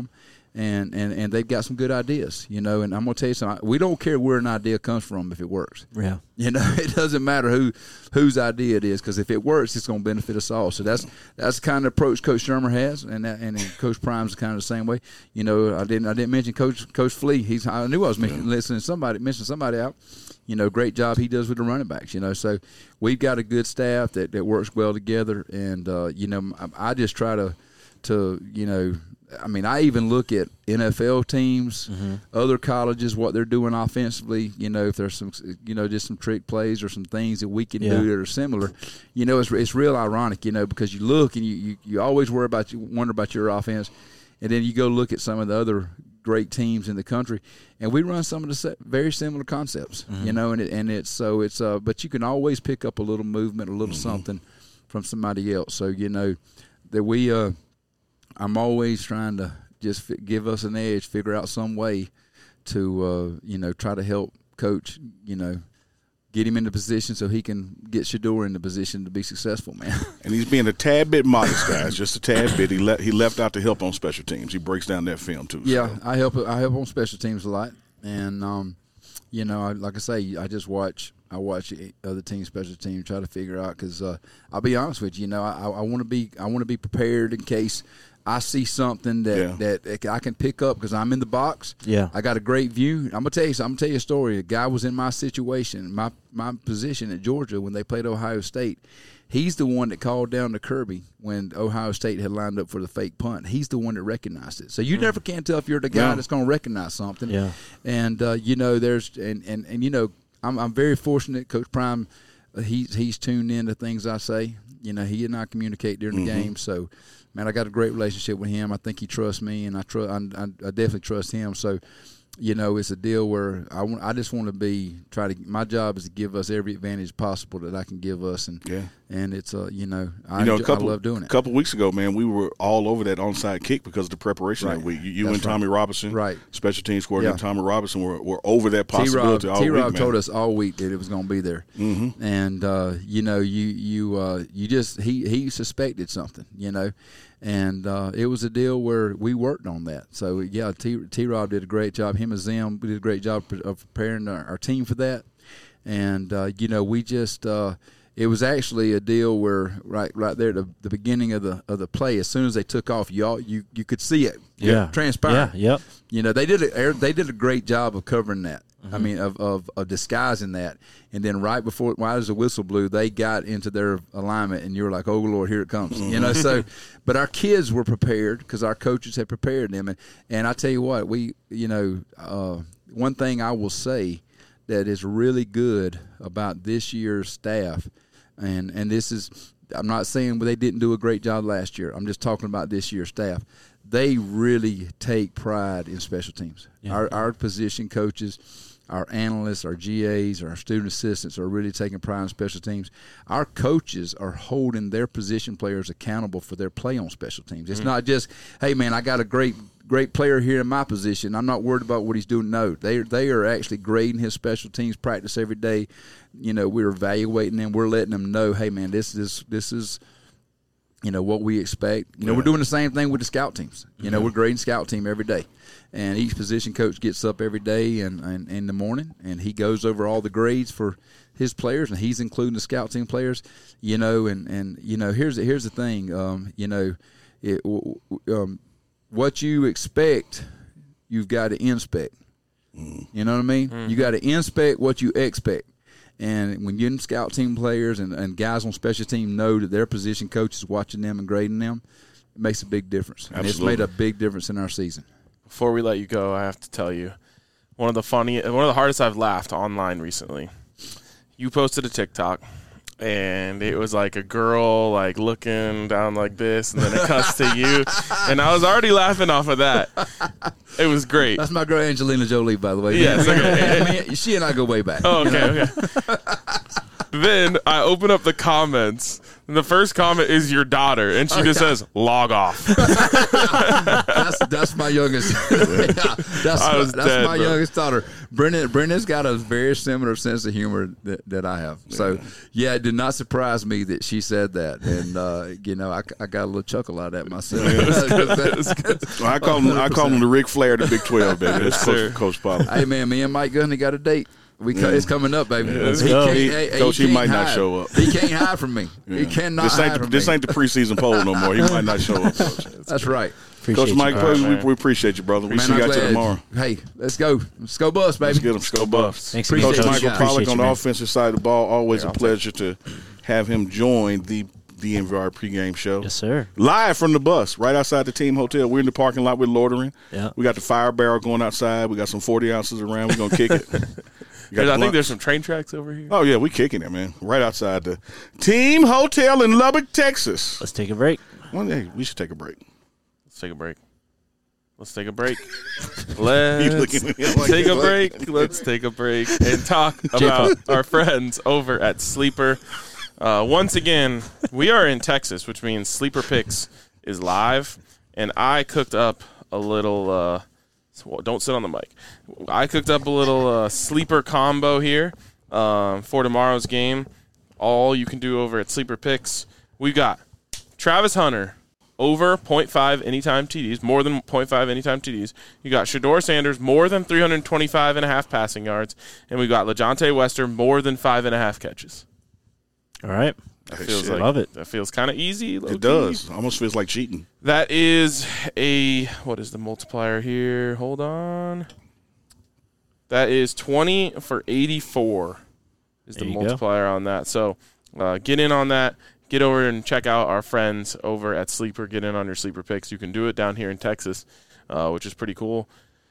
And, and, and they've got some good ideas, you know. And I'm gonna tell you something. We don't care where an idea comes from if it works. Yeah. You know, it doesn't matter who whose idea it is, because if it works, it's going to benefit us all. So that's that's the kind of approach Coach Shermer has, and that, and Coach Prime's kind of the same way. You know, I didn't I didn't mention Coach Coach Flea. He's I knew I was mentioning, listening to somebody mention somebody out. You know, great job he does with the running backs. You know, so we've got a good staff that, that works well together, and uh, you know, I, I just try to to you know. I mean, I even look at N F L teams, mm-hmm. other colleges, what they're doing offensively. You know, if there's some, you know, just some trick plays or some things that we can yeah. do that are similar. You know, it's it's real ironic, you know, because you look and you, you, you always worry about you wonder about your offense, and then you go look at some of the other great teams in the country, and we run some of the very similar concepts. Mm-hmm. You know, and it, and it's so it's uh, but you can always pick up a little movement, a little mm-hmm. something from somebody else. So you know that we. Uh, I'm always trying to just f- give us an edge, figure out some way to, uh, you know, try to help Coach, you know, get him in the position so he can get Shedeur in the position to be successful, man. And he's being a tad bit modest, guys, just a tad bit. He le- he left out to help on special teams. He breaks down that film too. Yeah, so. I help. I help on special teams a lot, and um, you know, I, like I say, I just watch. I watch other teams, special teams, try to figure out because uh, I'll be honest with you. You know, I, I want to be. I want to be prepared in case I see something that, yeah. that I can pick up because I'm in the box. Yeah, I got a great view. I'm gonna tell you. I'm gonna tell you a story. A guy was in my situation, my my position at Georgia when they played Ohio State. He's the one that called down to Kirby when Ohio State had lined up for the fake punt. He's the one that recognized it. So you mm. never can tell if you're the guy yeah. that's going to recognize something. Yeah. And uh, you know, there's and, and, and you know, I'm I'm very fortunate. Coach Prime, uh, he's he's tuned in to things I say. You know, he and I communicate during the mm-hmm. game. So, man, I got a great relationship with him. I think he trusts me, and I trust. I, I, I definitely trust him. So, you know, it's a deal where I want. I just want to be try to. My job is to give us every advantage possible that I can give us, and yeah. and it's uh, you know, I, you know, enjoy, a couple, I love doing it. A couple weeks ago, man, we were all over that onside kick because of the preparation right. that week. You, you and right. Tommy Robinson, right? Special teams coordinator yeah. Tommy Robinson were, were over that possibility T-Rob, all T-Rob week, man. told us all week that it was going to be there, mm-hmm. and uh, you know, you you uh, you just he he suspected something, you know. And uh, it was a deal where we worked on that. So, yeah, T- T-Rob did a great job. Him and Zim did a great job of preparing our, our team for that. And, uh, you know, we just uh, – it was actually a deal where right right there at the, the beginning of the of the play, as soon as they took off, y'all you, you could see it yeah. transpire. Yeah, yep. You know, they did a, they did a great job of covering that. Mm-hmm. I mean, of, of, of disguising that. And then right before, right as the whistle blew, they got into their alignment, and you were like, oh, Lord, here it comes. Mm-hmm. You know, so, but our kids were prepared because our coaches had prepared them. And, and I tell you what, we, you know, uh, one thing I will say that is really good about this year's staff, and, and this is, I'm not saying they didn't do a great job last year. I'm just talking about this year's staff. They really take pride in special teams. Yeah. Our, our position coaches, our analysts, our G As, our student assistants are really taking pride in special teams. Our coaches are holding their position players accountable for their play on special teams. It's mm-hmm. not just, hey, man, I got a great great player here in my position. I'm not worried about what he's doing. No, they they are actually grading his special teams practice every day. You know, we're evaluating them. We're letting them know, hey, man, this is this is – you know, what we expect. You know, yeah. we're doing the same thing with the scout teams. You mm-hmm. know, we're grading scout team every day. And each position coach gets up every day and, and in the morning, and he goes over all the grades for his players, and he's including the scout team players. You know, and, and you know, here's, here's the thing. Um, you know, it, um, what you expect, you've got to inspect. Mm. You know what I mean? Mm-hmm. You got to inspect what you expect. And when you're in scout team players and, and guys on special team know that their position coach is watching them and grading them, it makes a big difference. And it's made a big difference in our season. Before we let you go, I have to tell you, one of the funny, one of the hardest I've laughed online recently. You posted a TikTok, and it was like a girl like looking down like this, and then it cuts to you, and I was already laughing off of that. It was great. That's my girl Angelina Jolie, by the way. Yes, okay. Me, she and I go way back. Oh, okay, okay. Then I open up the comments, And the first comment is your daughter, and she just says, log off. that's that's my youngest. yeah, that's I was that's dead, my bro. youngest daughter. Brendan Brendan's got a very similar sense of humor that, that I have. So yeah, it did not surprise me that she said that, and uh, you know, I, I got a little chuckle out of that myself. Well, I call him I call him the Ric Flair of the Big twelve, baby. That's sir. Coach, Coach Pollard. Hey man, me and Mike Gundy got a date. We Yeah. It's coming up, baby. let's he go. can't, He- hey, hey, Coach, he can't might not hide. show up. He can't hide from me. He cannot This hide ain't the, from this me. ain't the preseason poll no more. He might not show up. Coach, That's right. Appreciate Coach Mike, you. All right, we, man. we appreciate you, brother. We Man, see you I'm guys glad. tomorrow. Hey, let's go. Let's go bus, baby. Let's get him. Go Buffs. Thanks, Appreciate Coach you, Michael guys. Pollock Appreciate on you, the man. offensive side of the ball. Always Yeah, a I'll take pleasure to have him join the D N V R pregame show. Yes, sir. Live from the bus, right outside the team hotel. We're in the parking lot with Loitering. Yeah. We got the fire barrel going outside. We got some forty ounces around. We're gonna kick it. We got I think blunt- there's some train tracks over here. Oh yeah, we kicking it, man. Right outside the team hotel in Lubbock, Texas. Let's take a break. One day we should take a break. Let's take a break. Let's take a break. You Let's looking at me like take a what? break. Let's take a break and talk about our friends over at Sleeper. Uh, once again, we are in Texas, which means Sleeper Picks is live, and I cooked up a little. Uh, so don't sit on the mic. I cooked up a little uh, sleeper combo here um, for tomorrow's game. All you can do over at Sleeper Picks. We got Travis Hunter over point five anytime T Ds, more than point five anytime T Ds. You got Shador Sanders more than three twenty-five and a half passing yards, and we got LeJontay Wester more than five and a half catches. All right. That Hey, feels shit. like Love it. That feels kind of easy. low-key. It does. Almost feels like cheating. That is a what is the multiplier here? Hold on. That is twenty for eighty-four. Is the There you go. multiplier on that? So uh, get in on that. Get over and check out our friends over at Sleeper. Get in on your Sleeper picks. You can do it down here in Texas, uh, which is pretty cool.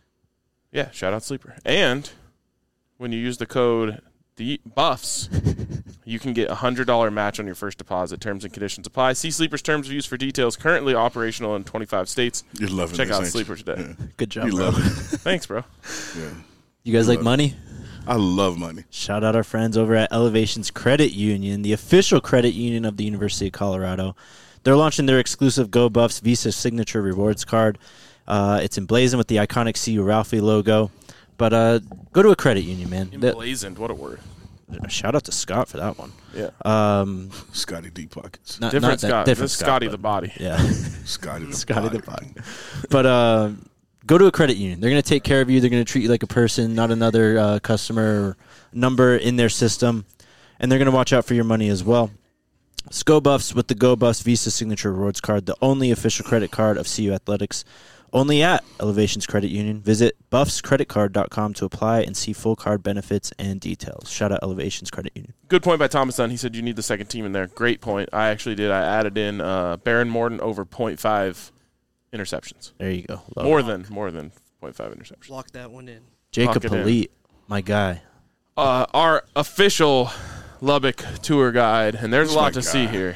Yeah, shout out Sleeper. And when you use the code the Buffs, you can get a hundred dollar match on your first deposit. Terms and conditions apply. See Sleeper's terms of use for details. Currently operational in twenty-five states. You're loving Check this, out ain't Sleeper you? today. Good job, You bro. love it. Thanks, bro. Yeah. You guys like love it. money? I love money. Shout out our friends over at Elevations Credit Union, the official credit union of the University of Colorado. They're launching their exclusive Go Buffs Visa Signature Rewards card. Uh, it's emblazoned with the iconic See You Ralphie logo. But uh, go to a credit union, man. That- Emblazoned. What a word. shout out to Scott for that one. Yeah. Um, Scotty Deep Pockets. not, Different not that- Scott. different This is Scott, Scotty but- the body. Yeah. Scotty the Scotty the Pocket. body. But uh, go to a credit union. They're going to take care of you. They're going to treat you like a person, not another uh, customer or number in their system. And they're going to watch out for your money as well. It's Go Buffs with the Go Buffs Visa Signature Rewards Card, the only official credit card of C U Athletics. Only at Elevations Credit Union. Visit buffs credit card dot com to apply and see full card benefits and details. Shout out Elevations Credit Union. Good point by Thomas Dunn. He said you need the second team in there. Great point. I actually did. I added in uh, Baron Morton over point five interceptions. There you go. Love More it. than more than point five interceptions. Lock that one in. Jacob Lock it in. Polite, my guy. Uh, our official Lubbock tour guide, and there's That's a lot my to see guy. here.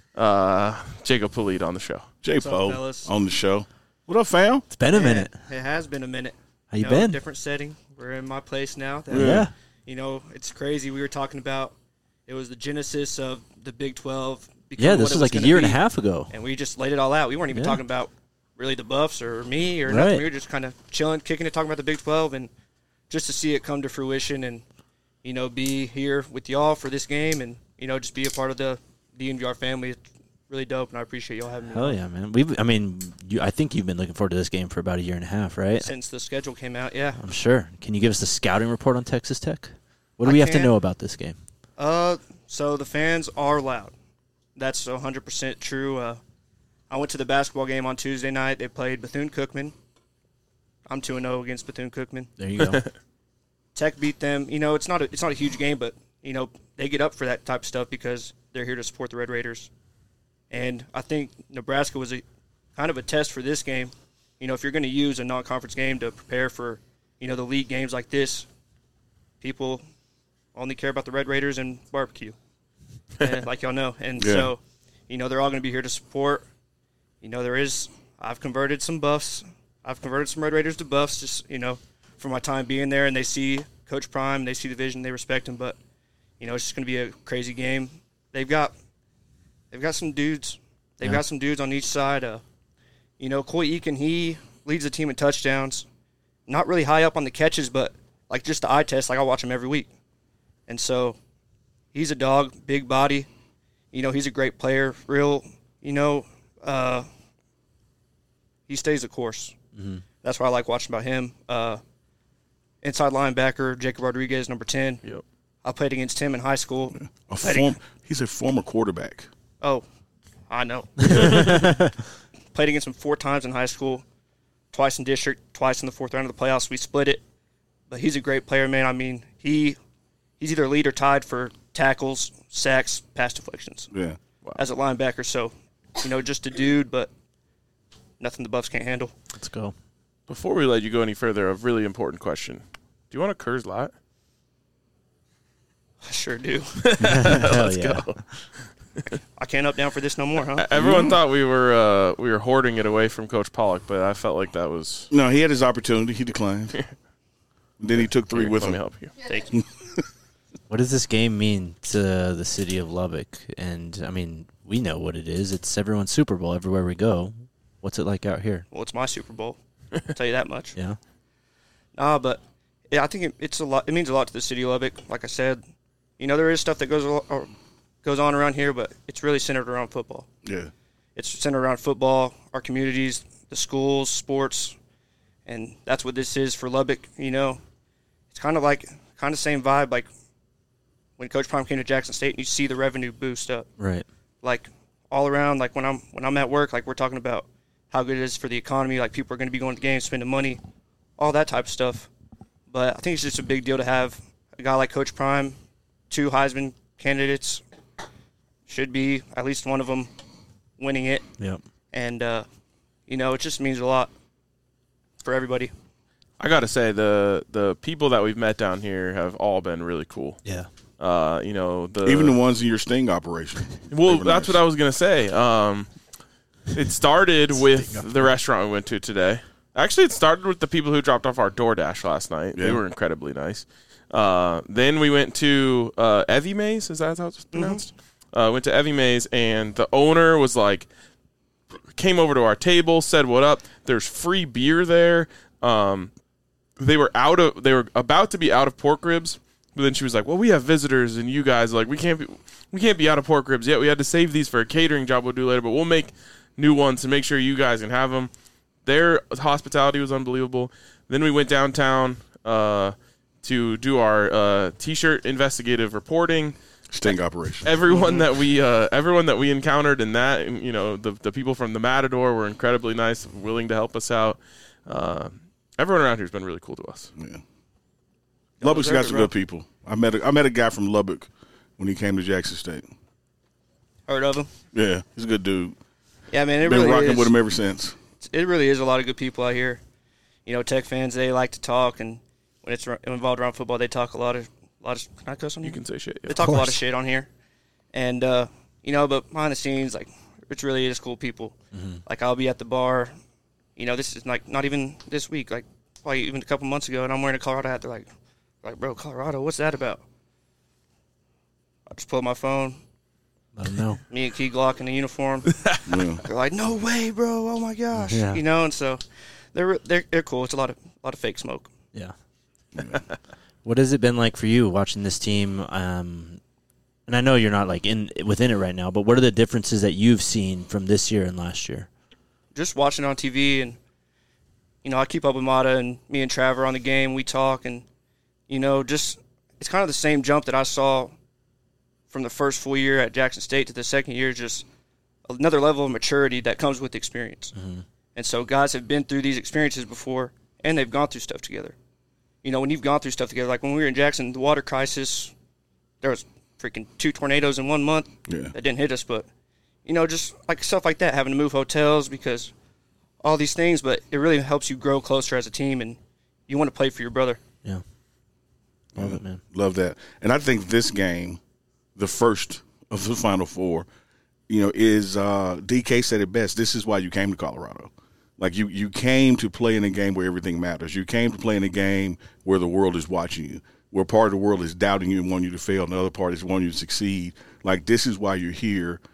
Uh, Jacob Polite on the show. J What's up, Poe fellas? on the show. What up, fam? It's been a Yeah, minute. It has been a minute. How you know, been? Different setting. We're in my place now. That, Yeah. You know, it's crazy. We were talking about it was the genesis of the Big twelve. becoming Yeah, what this it was like a gonna year and a be. half ago. And we just laid it all out. We weren't even Yeah. talking about really the Buffs or me or Right. nothing. We were just kind of chilling, kicking it, talking about the Big twelve, and just to see it come to fruition and, you know, be here with y'all for this game and, you know, just be a part of the D N V R family. It's really dope, and I appreciate y'all having me Hell on. yeah, man. We've, I mean, you, I think you've been looking forward to this game for about a year and a half, right? Since the schedule came out, yeah. I'm sure. Can you give us the scouting report on Texas Tech? What do I we have to can. know about this game? Uh, so the fans are loud. That's one hundred percent true. Uh, I went to the basketball game on Tuesday night. They played Bethune-Cookman. I'm two and oh against Bethune-Cookman. There you go. Tech beat them. You know, it's not a, it's not a huge game, but, you know, they get up for that type of stuff because they're here to support the Red Raiders. And I think Nebraska was a kind of a test for this game. You know, if you're going to use a non-conference game to prepare for, you know, the league games like this, people only care about the Red Raiders and barbecue, and, like y'all know. And Yeah. so, you know, they're all going to be here to support. You know, there is – I've converted some Buffs. I've converted some Red Raiders to Buffs just, you know, for my time being there. And they see Coach Prime. They see the vision. They respect him. But, you know, it's just going to be a crazy game. They've got – they've got some dudes. They've Yeah. got some dudes on each side. Uh, you know, Coy Eakin, he leads the team in touchdowns. Not really high up on the catches, but like just the eye test, like I watch him every week. And so he's a dog, big body. You know, he's a great player. Real, you know, uh, he stays the course. Mm-hmm. That's what I like watching about him. Uh, inside linebacker, Jacob Rodriguez, number ten. Yep. I played against him in high school. A form, he's a former quarterback. Oh, I know. Played against him four times in high school, twice in district, twice in the fourth round of the playoffs. We split it, but he's a great player, man. I mean, he he's either lead or tied for tackles, sacks, pass deflections Yeah. as a linebacker. So, you know, just a dude, but nothing the Buffs can't handle. Let's go. Before we let you go any further, a really important question. Do you want a Kurz Light? I sure do. Hell yeah. Go. I can't up down for this no more, huh? Everyone thought we were uh, we were hoarding it away from Coach Pollock, but I felt like that was. No, he had his opportunity. He declined. Then he took three Here, with let him. me help you. Thank you. What does this game mean to the city of Lubbock? And, I mean, we know what it is. It's everyone's Super Bowl everywhere we go. What's it like out here? Well, it's my Super Bowl. I'll tell you that much. Yeah? Nah, but yeah, I think it, it's a lot. It means a lot to the city of Lubbock. Like I said, you know, there is stuff that goes a lo- or goes on around here, but it's really centered around football. Yeah. It's centered around football, our communities, the schools, sports, and that's what this is for Lubbock. You know, it's kind of like kind of same vibe like when Coach Prime came to Jackson State, and you see the revenue boost up. Right. Like all around, like when I'm when I'm at work, like we're talking about how good it is for the economy. Like people are going to be going to games, spending money, all that type of stuff. But I think it's just a big deal to have a guy like Coach Prime, two Heisman candidates, should be at least one of them winning it. Yep. And, uh, you know, it just means a lot for everybody. I got to say, the the people that we've met down here have all been really cool. Yeah. Uh, you know, the Even the ones in your sting operation. Well, They were that's nice. what I was gonna say. Um, it started with the restaurant we went to today. Actually, it started with the people who dropped off our DoorDash last night. They Yeah. were incredibly nice. Uh, then we went to uh, Evie Mays. Is that how it's pronounced? Uh, went to Evie Mays, and the owner was like, came over to our table, said what up. There's free beer there. Um, they were out of, they were about to be out of pork ribs, but then she was like, "Well, we have visitors, and you guys like we can't be, we can't be out of pork ribs yet. We had to save these for a catering job we'll do later, but we'll make new ones to make sure you guys can have them." Their hospitality was unbelievable. Then we went downtown uh, to do our uh, t-shirt investigative reporting. Sting operation. Everyone that we uh, everyone that we encountered in that, and, you know, the the people from the Matador were incredibly nice, willing to help us out. Uh, everyone around here has been really cool to us. Yeah. Lubbock's got deserve it, some bro. good people. I met a, I met a guy from Lubbock when he came to Jackson State. Heard of him? Yeah, he's a good dude. Yeah, man, it Been really rocking is. with him ever since. It really is a lot of good people out here. You know, Tech fans, they like to talk, and when it's r- involved around football, they talk a lot of, a lot of. Can I cuss on You here? can say shit. Yeah. They talk a lot of shit on here, and uh, you know, but behind the scenes, like it's really is cool people. Like I'll be at the bar, you know, this is like not even this week, like probably even a couple months ago, and I'm wearing a Colorado hat. They're like, like, bro, Colorado, what's that about? I just pull up my phone, Let them know. me and Key Glock in the uniform. Yeah. They're like, no way, bro! Oh my gosh, Yeah. you know, and so they're they're they're cool. It's a lot of a lot of fake smoke. Yeah. What has it been like for you watching this team? Um, and I know you're not like in within it right now, but what are the differences that you've seen from this year and last year? Just watching it on T V, and you know, I keep up with Mata, and me and Trevor on the game. We talk, and you know, just it's kind of the same jump that I saw from the first full year at Jackson State to the second year. Just another level of maturity that comes with experience. And so guys have been through these experiences before, and they've gone through stuff together. You know, when you've gone through stuff together, like when we were in Jackson, the water crisis, there was freaking two tornadoes in one month Yeah. that didn't hit us, but you know, just like stuff like that, having to move hotels because all these things, but it really helps you grow closer as a team, and you want to play for your brother. Yeah. Love it, man. Love that. And I think this game, the first of the Final Four, you know, is uh, D K said it best. This is why you came to Colorado. Like you, you came to play in a game where everything matters. You came to play in a game where the world is watching you, where part of the world is doubting you and wanting you to fail, and the other part is wanting you to succeed. Like this is why you're here.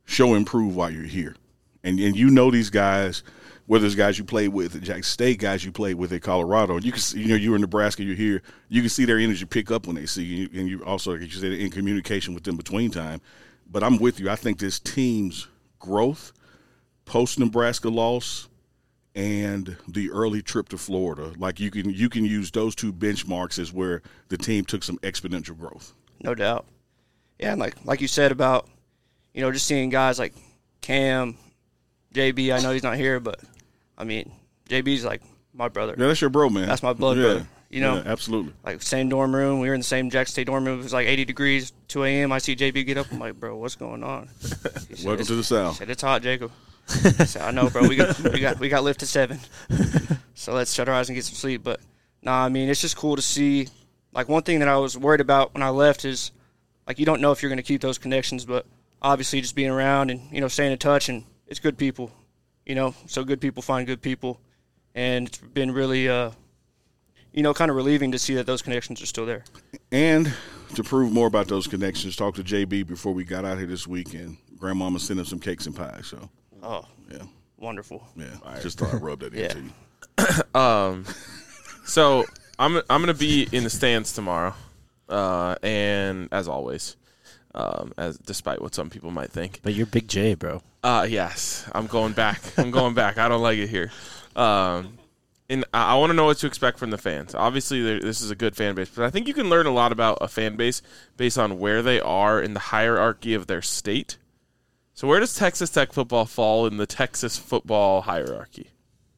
show and prove while you're here. And and you know these guys, whether it's guys you played with at Jackson State, guys you played with at Colorado. You can see, you know, you're in Nebraska, you're here. You can see their energy pick up when they see you, and you also, like you said, in communication with them between time. But I'm with you. I think this team's growth, post-Nebraska loss, and the early trip to Florida, like you can you can use those two benchmarks as where the team took some exponential growth. No doubt. Yeah, and like like you said about, you know, just seeing guys like Cam, J B, I know he's not here, but, I mean, J B's like my brother. Yeah, that's your bro, man. That's my blood yeah. brother. You know? Yeah, absolutely. Like, same dorm room. We were in the same Jackson State dorm room. It was like eighty degrees, two a.m. I see J B get up. I'm like, bro, what's going on? He said, Welcome to the He South. said, it's hot, Jacob. I said, I know, bro. We got we got, we got lift to seven. So let's shut our eyes and get some sleep. But, nah, I mean, it's just cool to see. Like, one thing that I was worried about when I left is, like, you don't know if you're going to keep those connections, but obviously just being around and, you know, staying in touch, and it's good people, you know, so good people find good people. And it's been really, uh, you know, kind of relieving to see that those connections are still there. And to prove more about those connections, talked to J B before we got out here this weekend. Grandmama sent him some cakes and pies, so. Oh, yeah. Wonderful. Yeah, right. Just thought I'd rub that Yeah. into you. Um, so I'm I'm gonna be in the stands tomorrow, uh, and as always, um, as despite what some people might think. But you're Big J, bro. Uh, yes, I'm going back. I'm going back. I don't like it here. Um, and I, I want to know what to expect from the fans. Obviously, there- this is a good fan base, but I think you can learn a lot about a fan base based on where they are in the hierarchy of their state. So where does Texas Tech football fall in the Texas football hierarchy?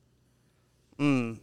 Mm.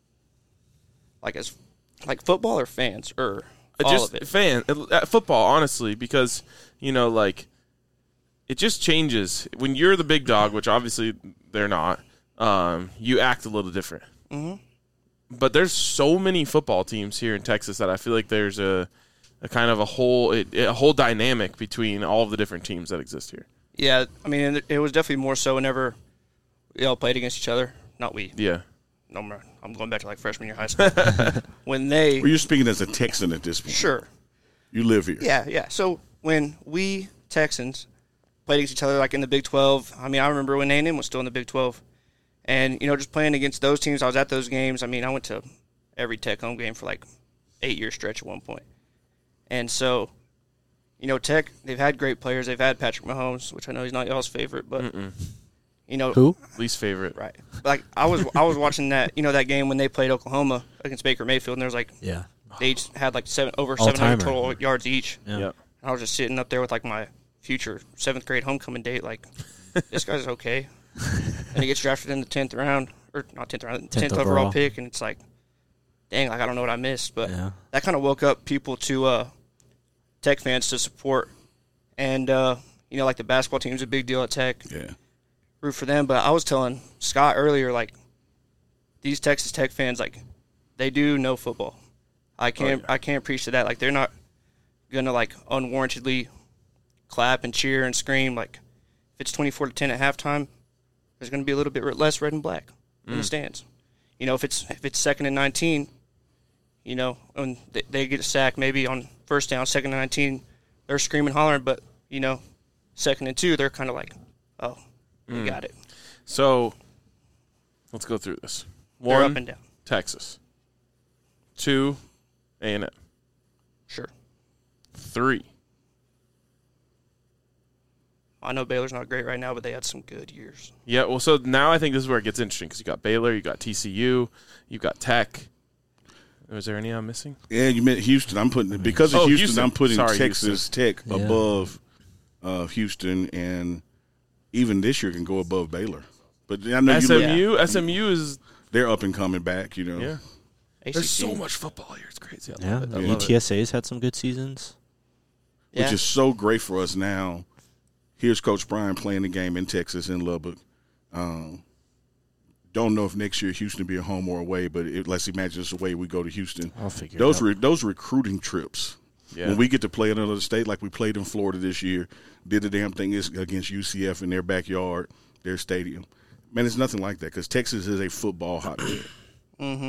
Like as, like football or fans or Uh, all just of it. fan uh, football, honestly, because you know, like it just changes when you're the big dog, which obviously they're not. Um, you act a little different. Mm-hmm. But there's so many football teams here in Texas that I feel like there's a, a kind of a whole it, a whole dynamic between all of the different teams that exist here. Yeah, I mean, it was definitely more so whenever we all played against each other. Not we. Yeah. No, I'm- I'm going back to like freshman year high school. When they Well, you're speaking as a Texan at this point. sure. You live here. Yeah, yeah. So when we Texans played against each other, like in the Big twelve, I mean, I remember when A and M was still in the Big twelve. And, you know, just playing against those teams, I was at those games. I mean, I went to every Tech home game for like eight-year stretch at one point. And so, you know, Tech, they've had great players. They've had Patrick Mahomes, which I know he's not y'all's favorite, but, Mm-mm. you know. Who? Least favorite. Right. But like, I was I was watching that, you know, that game when they played Oklahoma against Baker Mayfield, and there was like, Yeah. they each had like seven over seven hundred All-timer. total yards each. Yeah. Yep. I was just sitting up there with like my future seventh grade homecoming date, like, this guy's okay. And he gets drafted in the tenth round, or not tenth round, tenth overall. overall. pick, and it's like, dang, like I don't know what I missed, but Yeah. that kind of woke up people to uh, Tech fans to support, and uh, you know, like the basketball team's a big deal at Tech, Yeah. root for them. But I was telling Scott earlier, like, these Texas Tech fans, like, they do know football. I can't yeah. I can't preach to that. Like, they're not gonna like unwarrantedly clap and cheer and scream. Like, if it's twenty-four to ten at halftime, there's gonna be a little bit less red and black in the stands. You know, if it's if it's second and nineteen, you know, when they, they get a sack maybe on first down, second and nineteen, they're screaming, hollering. But you know, second and two, they're kind of like, oh, we got it. So let's go through this. They're One, up and down. Texas. Two, A and M. Sure. Three, I know Baylor's not great right now, but they had some good years. yeah. Well, so now I think this is where it gets interesting because you got Baylor, you got T C U, you got Tech. Was there any I'm missing? Yeah, you meant Houston. I'm putting because of Oh, Houston, Houston. I'm putting Sorry, Texas Tech Yeah. above uh, Houston, and even this year can go above Baylor. But I know you S look, M U. S M U is they're up and coming back. You know, yeah. A C C. There's so much football here. It's crazy. I Yeah. love it. I E love it. T S A's had some good seasons. Yeah. which is so great for us now. Here's Coach Brian playing the game in Texas in Lubbock. Um, don't know if next year Houston will be a home or away, but it, let's imagine it's away. We go to Houston. I'll figure Those it out. re, those recruiting trips. Yeah. When we get to play in another state, like we played in Florida this year, did the damn thing is against U C F in their backyard, their stadium. Man, it's nothing like that because Texas is a football hotbed. Mm-hmm.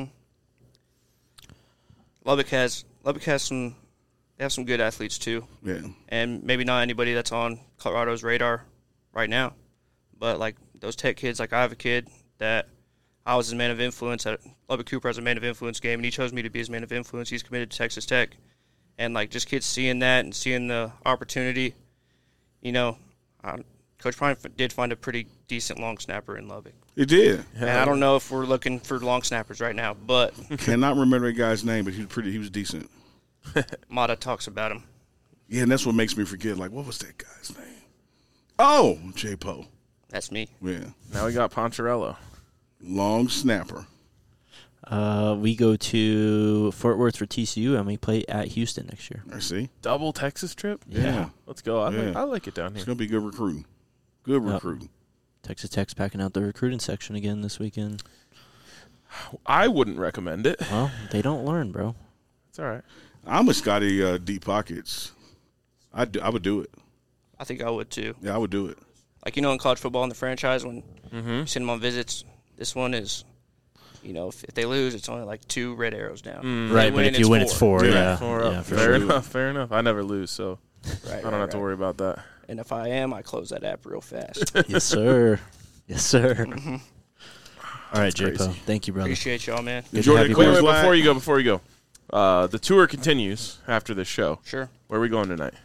Lubbock has Lubbock has some they have some good athletes too, Yeah, and maybe not anybody that's on Colorado's radar right now. But, like, those Tech kids, like I have a kid that I was his man of influence at Lubbock Cooper as a man of influence game, and he chose me to be his man of influence. He's committed to Texas Tech. And, like, just kids seeing that and seeing the opportunity, you know, I, Coach Prime did find a pretty decent long snapper in Lubbock. He did. And I don't know if we're looking for long snappers right now, but Cannot remember the guy's name, but he was pretty. He was decent. Mata talks about him. Yeah, and that's what makes me forget. Like, what was that guy's name? Oh, J Poe. That's me. Yeah, Now we got Poncherello. long snapper. Uh, we go to Fort Worth for T C U, and we play at Houston next year. I see. Double Texas trip? Yeah, Let's go. I, Yeah. like, I like it down it's here. gonna be good recruiting. Good Yep. recruiting. Texas Tech's packing out the recruiting section again this weekend. I wouldn't recommend it. Well, they don't learn, bro. It's all right. I'm a Scotty uh, deep pockets. I do, I would do it. I think I would too. Yeah, I would do it. Like, you know, in college football in the franchise, when Mm-hmm. you send them on visits, this one is, you know, if, if they lose, it's only like two red arrows down. Mm. If they Right, but if you win, it's four. Yeah. Yeah, Four yeah, up. for Fair sure. enough. Fair enough. I never lose, so Right, I don't right, have to right. worry about that. And if I am, I close that app real fast. Yes, sir. Yes, sir. Mhm. All right, crazy. J-Po. Thank you, brother. Appreciate y'all, man. Good to Enjoy have the you Wait, back. wait, Coors Light. before you go, before you go. Uh, the tour continues after this show. Sure. Where are we going tonight?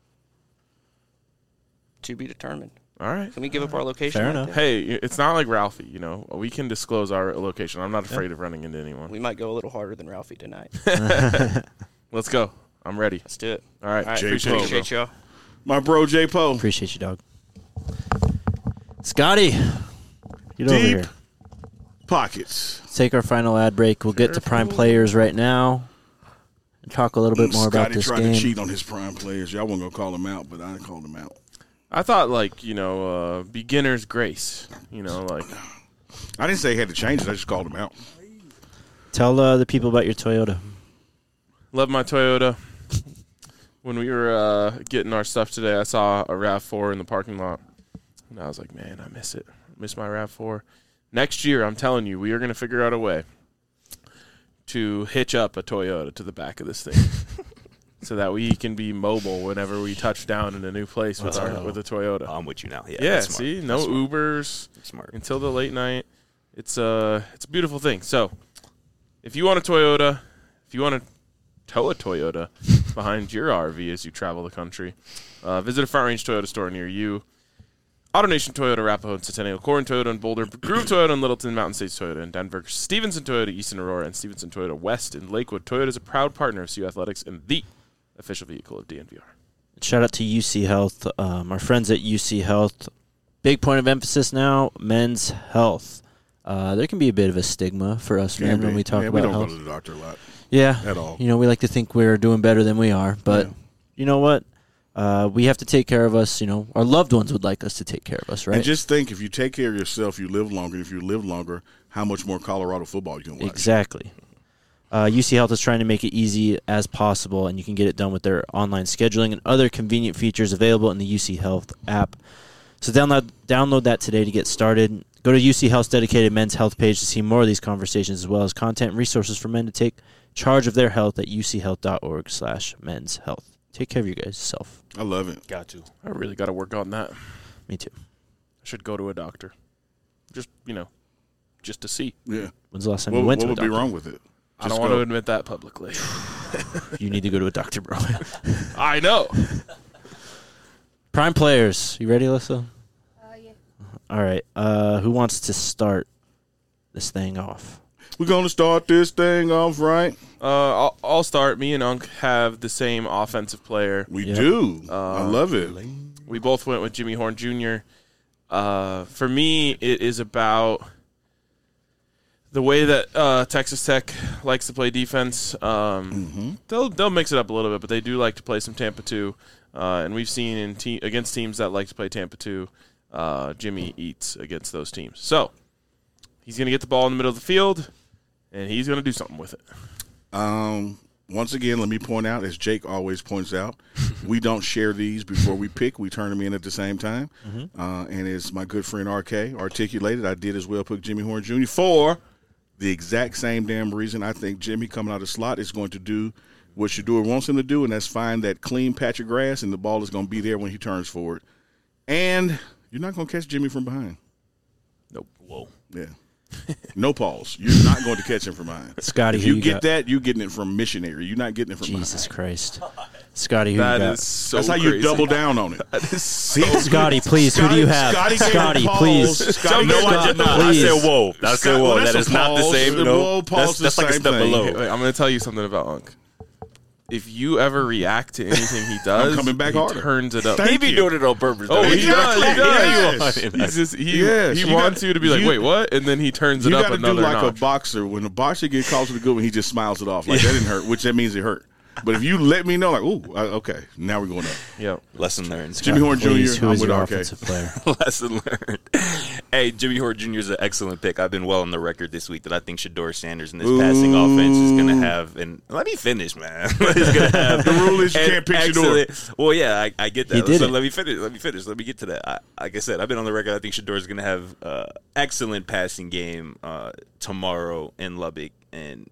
To be determined. All right. Can we give up our location? Fair right enough. there? Hey, it's not like Ralphie, you know. We can disclose our location. I'm not afraid of running into anyone. We might go a little harder than Ralphie tonight. Let's go. I'm ready. Let's do it. All right. All right. J-Po. Appreciate you, bro. Appreciate y'all. My bro J Poe. Appreciate you, dog. Scotty, get over Deep. here. Pockets. Let's take our final ad break. We'll get to prime players right now and talk a little bit more about Scotty this tried game. to cheat on his prime players. Y'all wasn't gonna call him out, but I called him out. I thought, like, you know, uh, beginner's grace. You know, like, I didn't say he had to change it. I just called him out. Tell uh, the people about your Toyota. love my Toyota. When we were uh, getting our stuff today, I saw a RAV four in the parking lot. And I was like, man, I miss it. I miss my RAV four. Next year, I'm telling you, we are going to figure out a way to hitch up a Toyota to the back of this thing so that we can be mobile whenever we touch down in a new place with our with a Toyota. I'm with you now. Yeah, yeah, that's smart. see? No That's smart. Ubers That's smart. until the late night. It's a, it's a beautiful thing. So if you want a Toyota, if you want to tow a Toyota behind your R V as you travel the country, uh, visit a Front Range Toyota store near you. AutoNation Toyota, Arapahoe and Centennial, Corin Toyota and Boulder, Groove Toyota and Littleton, Mountain States Toyota in Denver, Stevenson Toyota, East in Aurora, and Stevenson Toyota West in Lakewood. Toyota is a proud partner of C U Athletics and the official vehicle of D N V R. Shout out to U C Health. Um, our friends at U C Health. Big point of emphasis now, men's health. Uh, there can be a bit of a stigma for us men when we talk yeah, about we don't health. go to the doctor a lot Yeah, at all. you know, we like to think we're doing better than we are, but Yeah. you know what? Uh, we have to take care of us. You know, our loved ones would like us to take care of us, right? And just think, if you take care of yourself, you live longer. And if you live longer, how much more Colorado football you can watch? Exactly. Uh, U C Health is trying to make it easy as possible, and you can get it done with their online scheduling and other convenient features available in the U C Health app. So download download that today to get started. Go to U C Health's dedicated men's health page to see more of these conversations, as well as content and resources for men to take charge of their health at uchealth.org slash men's health. Take care of you guys self. I love it. Got to. I really got to work on that. I Me too. should go to a doctor. Just, you know, just to see. Yeah. When's the last time What, you went what to a would be doctor? wrong with it? I Just don't want go. to admit that publicly. You need to go to a doctor, bro. I know. Prime players. You ready, Alyssa? Uh, yeah. All right. Uh, who wants to start this thing off? We're going to start this thing off right. Uh, I'll, I'll start. Me and Unc have the same offensive player. We Yep. do. Uh, I love it. We both went with Jimmy Horn Junior Uh, for me, it is about the way that uh, Texas Tech likes to play defense. Um, Mm-hmm. They'll they'll mix it up a little bit, but they do like to play some Tampa two. Uh, and we've seen in te- against teams that like to play Tampa two, uh, Jimmy eats against those teams. So he's going to get the ball in the middle of the field, and he's going to do something with it. Um, once again, let me point out, as Jake always points out, we don't share these before we pick. We turn them in at the same time. Mm-hmm. Uh, and as my good friend R K articulated, I did as well pick Jimmy Horn Junior for the exact same damn reason. I think Jimmy coming out of the slot is going to do what Shedeur wants him to do, and that's find that clean patch of grass, and the ball is going to be there when he turns forward. And You're not going to catch Jimmy from behind. Nope. Whoa. Yeah. No pause. You're not going to catch him from behind. Scotty, if who you, you get got? that, you're getting it from missionary. You're not getting it from Jesus behind. Christ. Scotty, who That you got? is so That's how crazy. you double down on it. That is so Scotty, please, who do you have? Scotty, gave Scotty, a pause. please. Scotty, No, gave I a did not. I Please. said whoa. I said Scott- whoa. well, that that's is a not the pause. same. The No, whoa pause that's, is that's the like a same step thing. below. Wait, I'm going to tell you something about Unc. If you ever react to anything he does, coming back he harder. turns it up. Thank He be you. doing it on purpose. Oh, though. he does. He does. Yes. He's just, he Yes, he you wants got- you to be like, you- wait, what? And then he turns it You up got to do another like notch. a boxer. When a boxer gets called to the good one, he just smiles it off. Like, that didn't hurt, which that means it hurt. But if you let me know, like, ooh, I- okay, now we're going up. Yep. Lesson learned. Jimmy Horn Please, Junior, who I'm is with your R K. offensive player? Lesson learned. Hey, Jimmy Horn Junior is an excellent pick. I've been well on the record this week that I think Shador Sanders in this passing offense is going to have, and let me finish, man. He's going to have The rule is you an can't pick Shador. excellent- Well, yeah, I, I get that. He did so it. let me finish. Let me finish. Let me get to that. I, like I said, I've been on the record. I think Shador is going to have uh, excellent passing game uh, tomorrow in Lubbock, and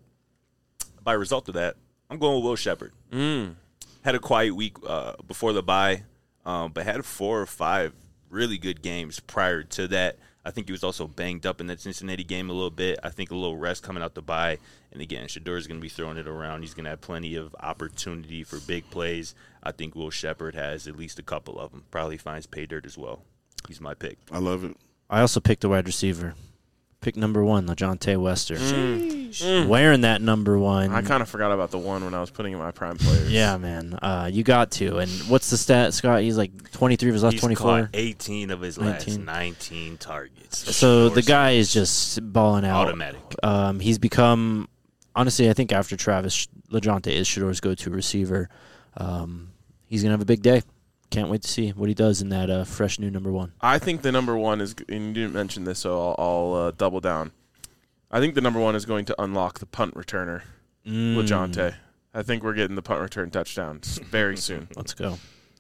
by result of that, I'm going with Will Shepard. Mm. Had a quiet week uh, before the bye, um, but had four or five really good games prior to that. I think he was also banged up in that Cincinnati game a little bit. I think a little rest coming out the bye. And again, Shador is going to be throwing it around. He's going to have plenty of opportunity for big plays. I think Will Shepard has at least a couple of them. Probably finds pay dirt as well. He's my pick. I love it. I also picked a wide receiver. Pick number one, LaJohntay Wester. Mm. Wearing that number one. I kind of forgot about the one when I was putting in my prime players. Yeah, man. Uh, you got to. And what's the stat, Scott? He's like twenty-three of his last He's twenty-four. caught eighteen of his last nineteen. nineteen targets. So Shador the guy is Sanders. just balling out. Automatic. Um, he's become, honestly, I think after Travis, LaJohntay is Shador's go-to receiver. Um, he's going to have a big day. Can't wait to see what he does in that uh, fresh new number one. I think the number one is, and you didn't mention this, so I'll, I'll uh, double down. I think the number one is going to unlock the punt returner, Mm. LaJohntay. I think we're getting the punt return touchdowns very soon. Let's go.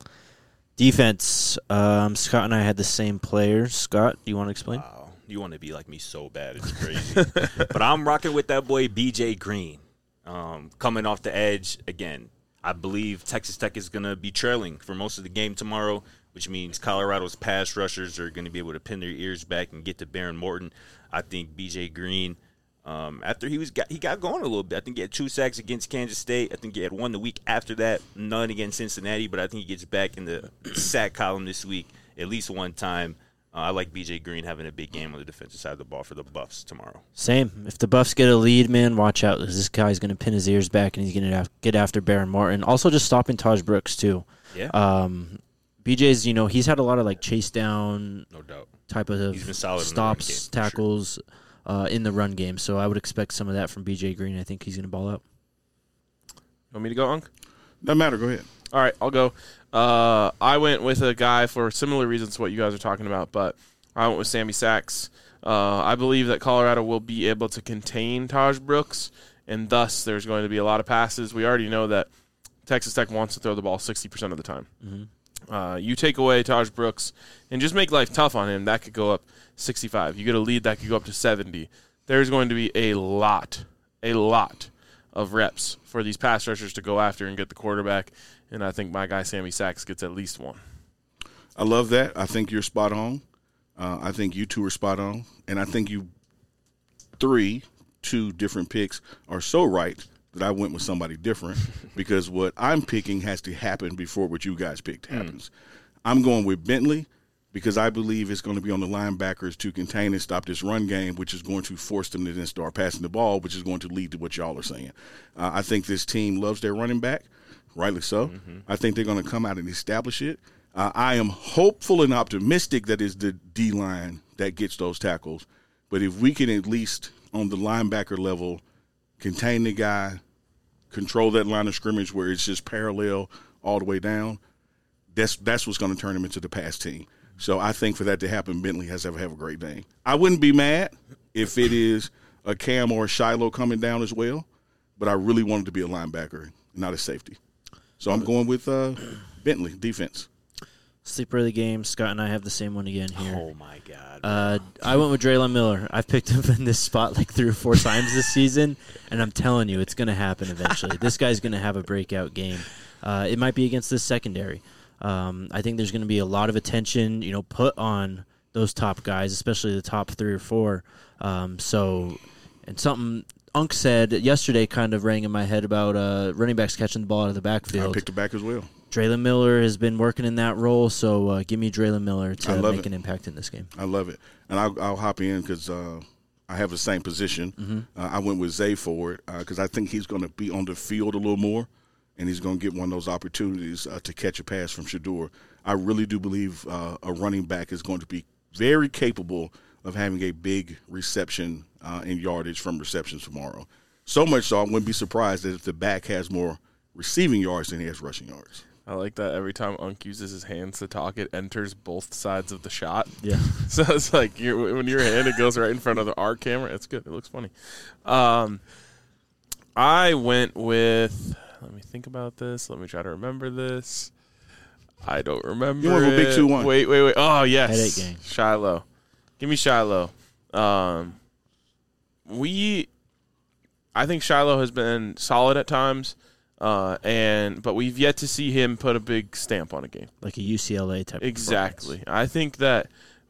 Defense. Um, Scott and I had the same players. Scott, do you want to explain? Wow. You want to be like me so bad. It's crazy. But I'm rocking with that boy B J Green. Um, coming off the edge, again, I believe Texas Tech is going to be trailing for most of the game tomorrow, which means Colorado's pass rushers are going to be able to pin their ears back and get to Baron Morton. I think B J Green, um, after he was got, he got going a little bit. I think he had two sacks against Kansas State. I think he had one the week after that, none against Cincinnati. But I think he gets back in the sack column this week at least one time. Uh, I like B J Green having a big game on the defensive side of the ball for the Buffs tomorrow. Same. If the Buffs get a lead, man, watch out. This guy's going to pin his ears back, and he's going to get after Baron Morton. Also, just stopping Taj Brooks, too. Yeah, Um, B J's, you know, he's had a lot of, like, chase down no doubt. type of He's been solid in the run game, stops, for sure. tackles uh, in the run game. So I would expect some of that from B J Green. I think he's going to ball out. Want me to go, Unc? Doesn't matter. Go ahead. All right, I'll go. Uh, I went with a guy for similar reasons to what you guys are talking about, but I went with Sammy Sachs. Uh, I believe that Colorado will be able to contain Taj Brooks, and thus there's going to be a lot of passes. We already know that Texas Tech wants to throw the ball sixty percent of the time. Mm-hmm. Uh, you take away Taj Brooks and just make life tough on him, that could go up sixty-five. You get a lead, that could go up to seventy. There's going to be a lot, a lot of reps for these pass rushers to go after and get the quarterback, and I think my guy Sammy Sachs gets at least one. I love that. I think you're spot on. Uh, I think you two are spot on. And I think you three, two different picks are so right that I went with somebody different because what I'm picking has to happen before what you guys picked happens. Mm. I'm going with Bentley because I believe it's going to be on the linebackers to contain and stop this run game, which is going to force them to then start passing the ball, which is going to lead to what y'all are saying. Uh, I think this team loves their running back, rightly so. Mm-hmm. I think they're going to come out and establish it. Uh, I am hopeful and optimistic that it's the D-line that gets those tackles. But if we can at least, on the linebacker level, contain the guy, control that line of scrimmage where it's just parallel all the way down, that's that's what's going to turn him into the pass team. So I think for that to happen, Bentley has to have a great day. I wouldn't be mad if it is a Cam or a Shiloh coming down as well, but I really wanted to be a linebacker, not a safety. So I'm going with uh, Bentley, defense. Sleeper of the game. Scott and I have the same one again here. Oh, my God. Uh, I went with Draylon Miller. I've picked him in this spot like three or four times this season, and I'm telling you, it's going to happen eventually. This guy's going to have a breakout game. Uh, it might be against this secondary. Um, I think there's going to be a lot of attention, you know, put on those top guys, especially the top three or four. Um, so, and something Unc said yesterday kind of rang in my head about uh, running backs catching the ball out of the backfield. I picked it back as well. Draylon Miller has been working in that role, so uh, give me Draylon Miller to make it. an impact in this game. I love it. And I'll, I'll hop in because uh, I have the same position. Mm-hmm. Uh, I went with Zay Ford because uh, I think he's going to be on the field a little more, and he's going to get one of those opportunities uh, to catch a pass from Shedeur. I really do believe uh, a running back is going to be very capable of having a big reception uh, and yardage from receptions tomorrow. So much so I wouldn't be surprised that if the back has more receiving yards than he has rushing yards. I like that every time Unc uses his hands to talk, it enters both sides of the shot. Yeah. So it's like you're, when your hand, it goes right in front of the our camera. It's good. It looks funny. Um, I went with, let me think about this. Let me try to remember this. I don't remember. You went with it. big two one. Wait, wait, wait. Oh, yes. Headache gang. Shiloh. Give me Shiloh. Um, we, I think Shiloh has been solid at times. Uh, and but we've yet to see him put a big stamp on a game. Like a U C L A type Exactly. I think that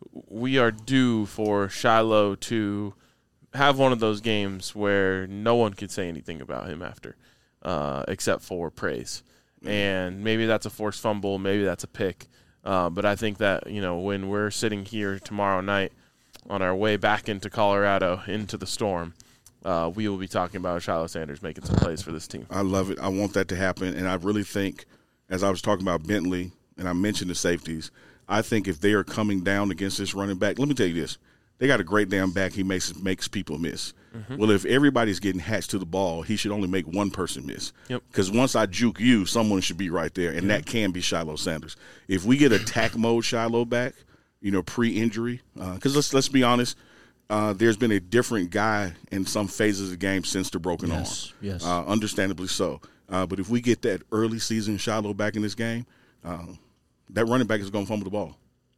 we are due for Shiloh to have one of those games where no one could say anything about him after, uh, except for praise. And maybe that's a forced fumble, maybe that's a pick. Uh, but I think that, you know, when we're sitting here tomorrow night on our way back into Colorado, into the storm, Uh, we will be talking about Shiloh Sanders making some plays for this team. I love it. I want that to happen. And I really think, as I was talking about Bentley, and I mentioned the safeties, I think if they are coming down against this running back, let me tell you this. They got a great damn back. He makes makes people miss. Mm-hmm. Well, if everybody's getting hatched to the ball, he should only make one person miss. Yep. Because once I juke you, someone should be right there, and mm-hmm. that can be Shiloh Sanders. If we get attack mode Shiloh back, you know, pre-injury, because uh, let's let's be honest, Uh, there's been a different guy in some phases of the game since the broken yes, arm. Yes, uh, understandably so. Uh, but if we get that early season Shiloh back in this game, uh, that running back is going to fumble the ball.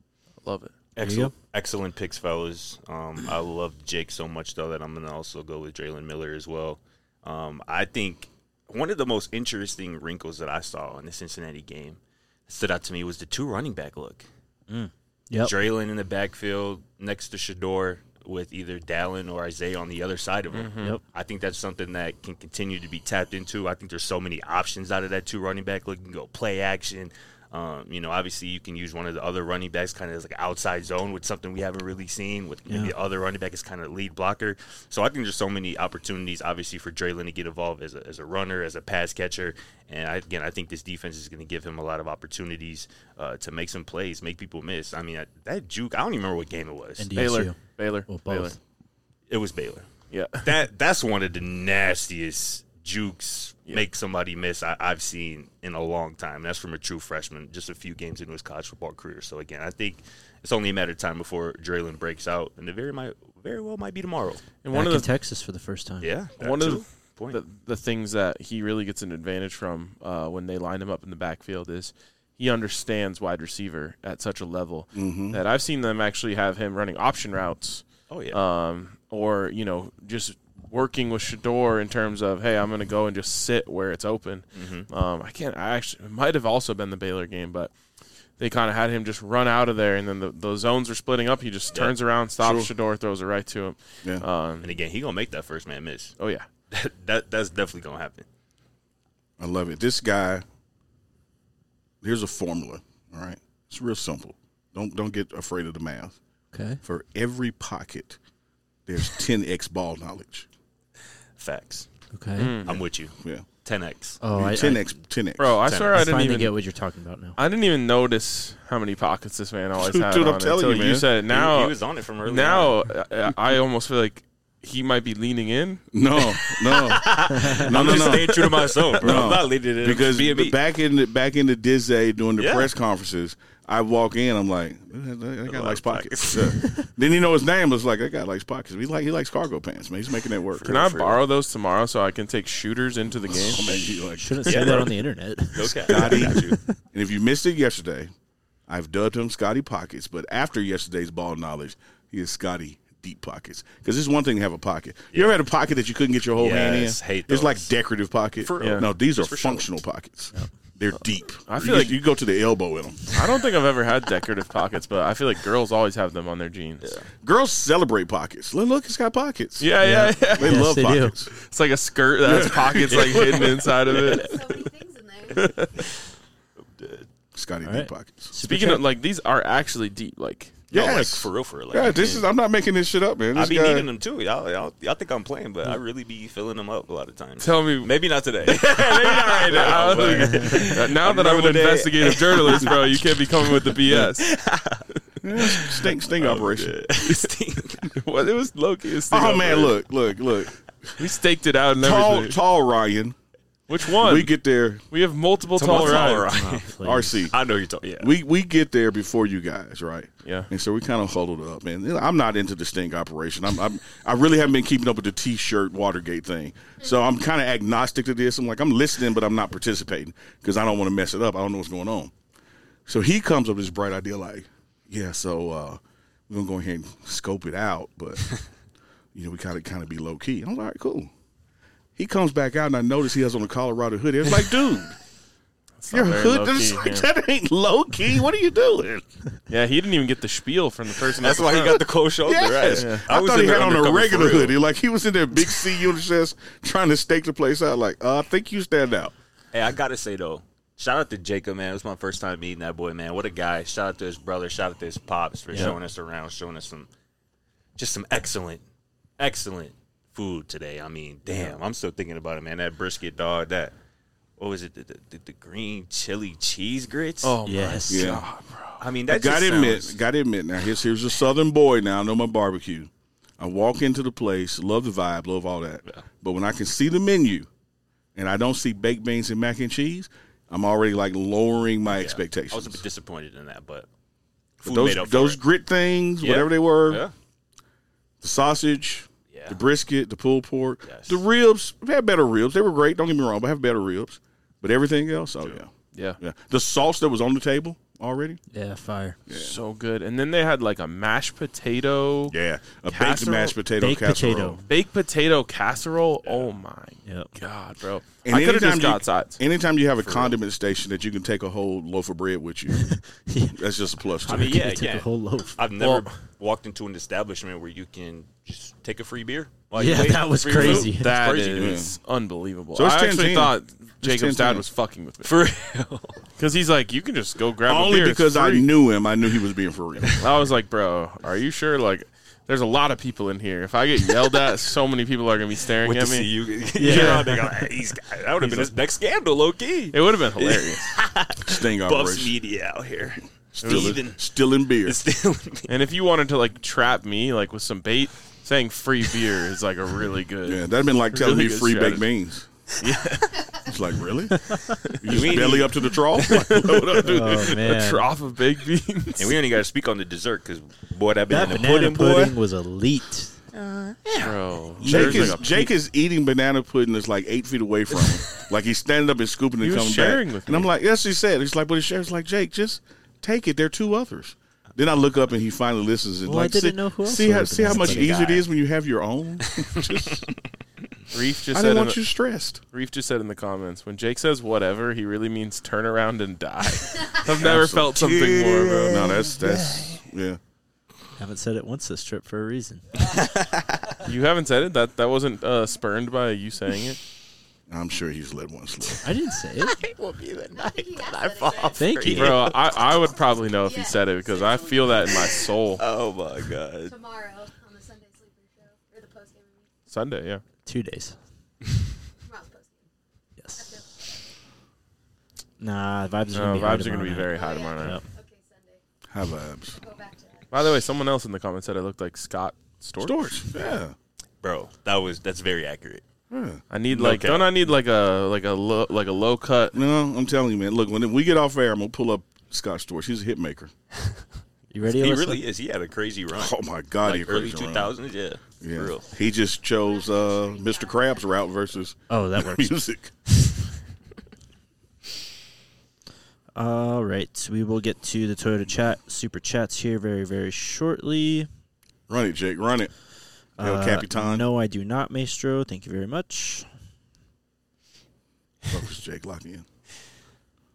I love it. Excellent, excellent picks, fellas. Um, I love Jake so much, though, that I'm going to also go with Draylon Miller as well. Um, I think one of the most interesting wrinkles that I saw in the Cincinnati game that stood out to me was the two running back look. Mm. Yep. Draylon in the backfield next to Shedeur, with either Dallin or Isaiah on the other side of him. Mm-hmm. Yep. I think that's something that can continue to be tapped into. I think there's so many options out of that two running back. Look, you can go play action. Um, you know, obviously you can use one of the other running backs kind of as like outside zone with something we haven't really seen with maybe Yeah. the other running back is kind of lead blocker. So I think there's so many opportunities, obviously, for Draylon to get involved as a, as a runner, as a pass catcher. And I, again, I think this defense is going to give him a lot of opportunities uh, to make some plays, make people miss. I mean, I, that juke, I don't even remember what game it was. And Baylor. D S U. Baylor. Well, both. Baylor. It was Baylor. Yeah. That that's one of the nastiest jukes Yeah. make somebody miss I, I've seen in a long time. That's from a true freshman, just a few games into his college football career. So again, I think it's only a matter of time before Draylon breaks out, and it very might very well might be tomorrow. And Back one of in the Texas for the first time. Yeah, that one too. of the, Point. the the things that he really gets an advantage from uh, when they line him up in the backfield is he understands wide receiver at such a level Mm-hmm. that I've seen them actually have him running option routes. Oh yeah. Um, or, you know, just working with Shedeur in terms of, hey, I'm going to go and just sit where it's open. Mm-hmm. Um, I can't, I actually, it might have also been the Baylor game, but they kind of had him just run out of there, and then the, the zones are splitting up. He just turns Yeah. around, stops Sure. Shedeur, throws it right to him. Yeah. Um, and again, he gonna make that first man miss. oh, yeah. That, that that's definitely gonna happen. I love it. This guy, here's a formula, all right? It's real simple. Don't don't get afraid of the math. Okay. For every pocket, there's ten x ball knowledge. Facts. Okay. Mm. I'm with you. Yeah. ten x. Oh, I, ten I, x, ten x. Bro, I Ten. swear I I didn't finally even get what you're talking about now. I didn't even notice how many pockets this man always Dude, had dude, I'm on telling until you, you man. said it. He, Now, he was on it from early. now on. I, I almost feel like he might be leaning in. No, no, no, I'm no, just no. staying true to myself, bro. No. I'm not leading it Because being me. back in the, back in the Dizzy during the Yeah. press conferences, I walk in, I'm like, that, that guy lot likes of pockets. Yeah. Then you know his name was like, that guy likes pockets. He like he likes cargo pants, man. He's making that work. Can I borrow those tomorrow so I can take shooters into the game? Oh, man, he like, Shouldn't Yeah, say that bro. on the internet. Okay, Scotty. I got you. And if you missed it yesterday, I've dubbed him Scotty Pockets. But after yesterday's ball knowledge, he is Scotty Deep Pockets. Because it's one thing to have a pocket. You ever had a pocket that you couldn't get your whole hand in? Yes, hate It's like those. decorative pocket. For real. No, these are Just for show. functional pockets. They're deep. I feel you, like- you go to the elbow in them. I don't think I've ever had decorative pockets, but I feel like girls always have them on their jeans. Yeah, Girls celebrate pockets. Look, look, it's got pockets. yeah, yeah. yeah. They Yes, love they do. pockets. It's like a skirt that has pockets like hidden inside of it. So many things in there. Scotty All deep right. pockets. Speaking of like, these are actually deep. Like, No, like Yes. for real, for real. Like, Yeah, this is. I'm not making this shit up, man. I This be guy, needing them too. Y'all, y'all, y'all think I'm playing, but I really be filling them up a lot of times. tell me, Maybe not today. maybe not right now. Uh, now that I'm an Another day. investigative journalist, bro, you can't be coming with the B S. yeah, sting sting operation. What it was low key. Oh man, look, look, look. we staked it out and Tall, everything. tall Ryan. Which one? We get there. We have multiple Tall tall Ryan. Ryans. Oh, please. R C. I know you're talking. Yeah. We we get there before you guys, right? Yeah. And so we kind of huddled up, man. You know, I'm not into the sting operation. I'm, I'm I really haven't been keeping up with the T-shirt Watergate thing. So I'm kind of agnostic to this. I'm like I'm listening, but I'm not participating because I don't want to mess it up. I don't know what's going on. So he comes up with this bright idea, like, yeah, so uh, we're gonna go ahead and scope it out, but you know, we kind of kind of be low key. I'm like, all right, cool. He comes back out, and I notice he has on a Colorado hoodie. It's like, dude, It's your not very hood, low-key, it's like, yeah. that ain't low key. What are you doing? Yeah, he didn't even get the spiel from the person. That's at the why he front. got the cold shoulder. Yes. Right. I, was thought in he there had on a undercover regular for real. hoodie. Like he was in there, big C unit chest, trying to stake the place out. Like, uh, I think you stand out. Hey, I gotta say though, shout out to Jacob, man. It was my first time meeting that boy, man. What a guy. Shout out to his brother. Shout out to his pops for Yeah. showing us around, showing us some, just some excellent, excellent food today. I mean, damn, I'm still thinking about it, man. That brisket, dog. That, what was it? The, the, the green chili cheese grits. Oh Yes. my Yeah. god, bro. I mean, that Got just to admit, sounds- got to admit. Now here's here's a Southern boy. Now I know my barbecue. I walk into the place, love the vibe, love all that. Yeah. But when I can see the menu, and I don't see baked beans and mac and cheese, I'm already like lowering my yeah. expectations. I was a bit disappointed in that, but But food those made up for those it. grit things, Yeah. whatever they were, Yeah. the sausage, Yeah. the brisket, the pulled pork, Yes. the ribs. We had better ribs. They were great. Don't get me wrong, but I have better ribs. But everything else, oh yeah, Yeah. yeah. The sauce that was on the table already, Yeah, fire. So good. And then they had like a mashed potato, yeah, a baked Casserole- mashed potato baked casserole. potato. baked potato casserole. Oh my Yep. god, bro! And I could have anytime just you- got sides. Anytime you have a condiment station that you can take a whole loaf of bread with you, that's just a plus. To I me. mean, yeah, They took yeah. a whole loaf. I've never Well- walked into an establishment where you can just take a free beer. while you Yeah, wait that for was free crazy. food. That crazy, is unbelievable. So it's I ten actually ten. thought ten Jacob's dad ten. was fucking with me For real. because he's like, you can just go grab a Only beer. It's because I free." knew him, I knew he was being for real. I was like, bro, are you sure? Like, there's a lot of people in here. If I get yelled at, so many people are gonna be staring Wait at to me. see you. Yeah. Yeah. They go, hey, he's, that would have been his next scandal, low key. It would have been hilarious. Sting Buffs operation. media out here. Still, Steven. in, still in beer. Still, And if you wanted to like trap me like with some bait, saying free beer is like a really good. Yeah, that'd have been like telling Really me good free baked strategy. beans. It's like, really? You just belly up to the trough? Like, what I do? Oh A man, trough of baked beans. and we only got to speak on the dessert because, boy, that that banana, banana pudding, pudding, boy. was elite. Bro, Jake there's is like a Jake pe- is eating banana pudding that's like eight feet away from him. Like he's standing up and scooping and He was coming sharing back. with and I'm me. like, yes, he said. He's like, but he shares like Jake, just take it. There are two others. Then I look up and he finally listens and Well, I like, didn't see, know who else see how ordered see how banana much pudding. easier it Guy. is when you have your own. Just, Reef just I said didn't in want the, you stressed. Reef just said in the comments when Jake says whatever, he really means turn around and die. I've never felt something more, bro. No, that's that's yeah. Haven't said it once this trip for a reason. You haven't said it. That that wasn't uh, spurned by you saying it. I'm sure he's let one slip. I didn't say it. It will be the I think night he that has I said fall it. off. Thank you. Bro, I, I would probably know if he said it because I feel that in my soul. Oh, my God. Tomorrow on the Sunday Sleeper Show or the post game. Sunday, yeah. Two days. Tomorrow's post game. Yes. Nah, vibes are No, gonna be high vibes are going to tomorrow be night. very high tomorrow night. Yep. Okay, Sunday. High vibes. Go back to that. By the way, someone else in the comments said I looked like Scott Storch. Storch. Yeah. Bro, that was that's very accurate. yeah. I need No like, cap. don't I need like a like a low, like a low cut? No, I'm telling you, man. Look, when we get off air, I'm gonna pull up Scott Storch. He's a hit maker. You ready? He Alyssa? really is. He had a crazy run. Oh my God, he like early crazy run. two thousands, yeah. Yeah. For real. He just chose uh, Mister Krabs route versus Oh, that works. music. All right, we will get to the Toyota chat super chats here very very shortly. Run it, Jake. Run it. El Uh, Capitan. No, I do not, Maestro. Thank you very much. Focus, Jake. Lock in.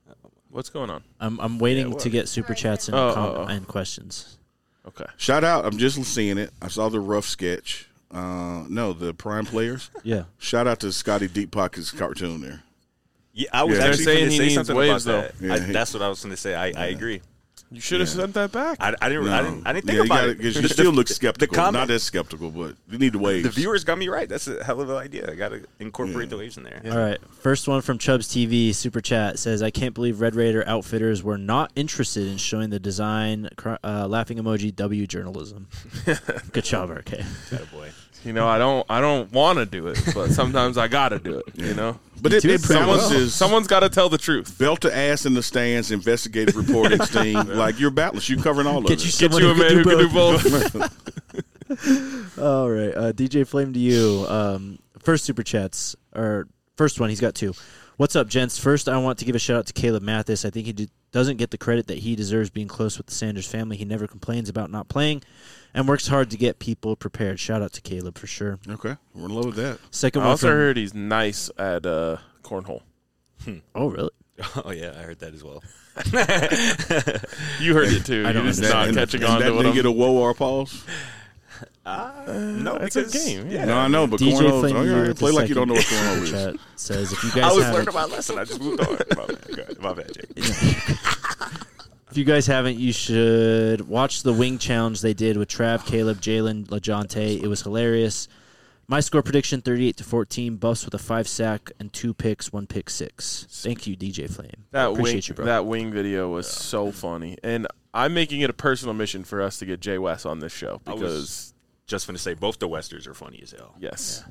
What's going on? I'm I'm waiting Yeah, what? to get super chats and, Oh, com- oh, oh. and questions. Okay. Shout out. I'm just seeing it. I saw the rough sketch. Uh, no, the prime players. Yeah. Shout out to Scotty Deep Pockets cartoon there. Yeah, I was Yeah. actually They're saying going to he say needs something waves, about that. though. I, Yeah, he- that's what I was going to say. I, I agree. You should have Yeah. sent that back. I, I didn't. I didn't. I didn't yeah, think you about gotta- it. 'cause you still look The skeptical. comment- Not as skeptical, but you need the waves. The viewers got me right. That's a hell of an idea. I got to incorporate Yeah. the waves in there. All right. First one from Chubbs T V super chat says, "I can't believe Red Raider outfitters were not interested in showing the design cr- uh, laughing emoji W journalism." Good job, R K. Boy. You know, I don't I don't want to do it, but sometimes I got to do it, you know? But it, do it it pretty Someone's, balances. well. someone's got to tell the truth. Belt to ass in the stands, investigative reporting team. Like you're battles. You're covering all Get of you it. Get someone you a who man who can can do do both. both. All right. Uh, D J Flame to you. Um, first super chats, or first one, he's got two. What's up, gents? First, I want to give a shout out to Caleb Mathis. I think he do, doesn't get the credit that he deserves being close with the Sanders family. He never complains about not playing and works hard to get people prepared. Shout out to Caleb for sure. Okay, we're in love with that. Second I one also from, heard he's nice at uh, cornhole. oh, really? Oh yeah, I heard that as well. You heard it too. I don't You're just understand. not and, catching and on that to what didn't I'm get a whoa or pause. No, it's a because game, yeah. No, I know, but D J cornholes. Flame Oh, to you yeah, with play the like you don't know what second cornhole super is. chat says, if you I guys was haven't, learning my lesson. I just moved on. My bad, Go ahead. My bad, Jake. if you guys haven't, you should watch the wing challenge they did with Trav, Caleb, Jalen, LaJonte. It was hilarious. My score prediction: thirty-eight to fourteen. Buffs with a five sack and two picks, one pick six. Thank you, D J Flame. That Appreciate wing, you, bro. that wing video was so funny, and I'm making it a personal mission for us to get Jay West on this show I was- because Just going to say, both the Westers are funny as hell. yes,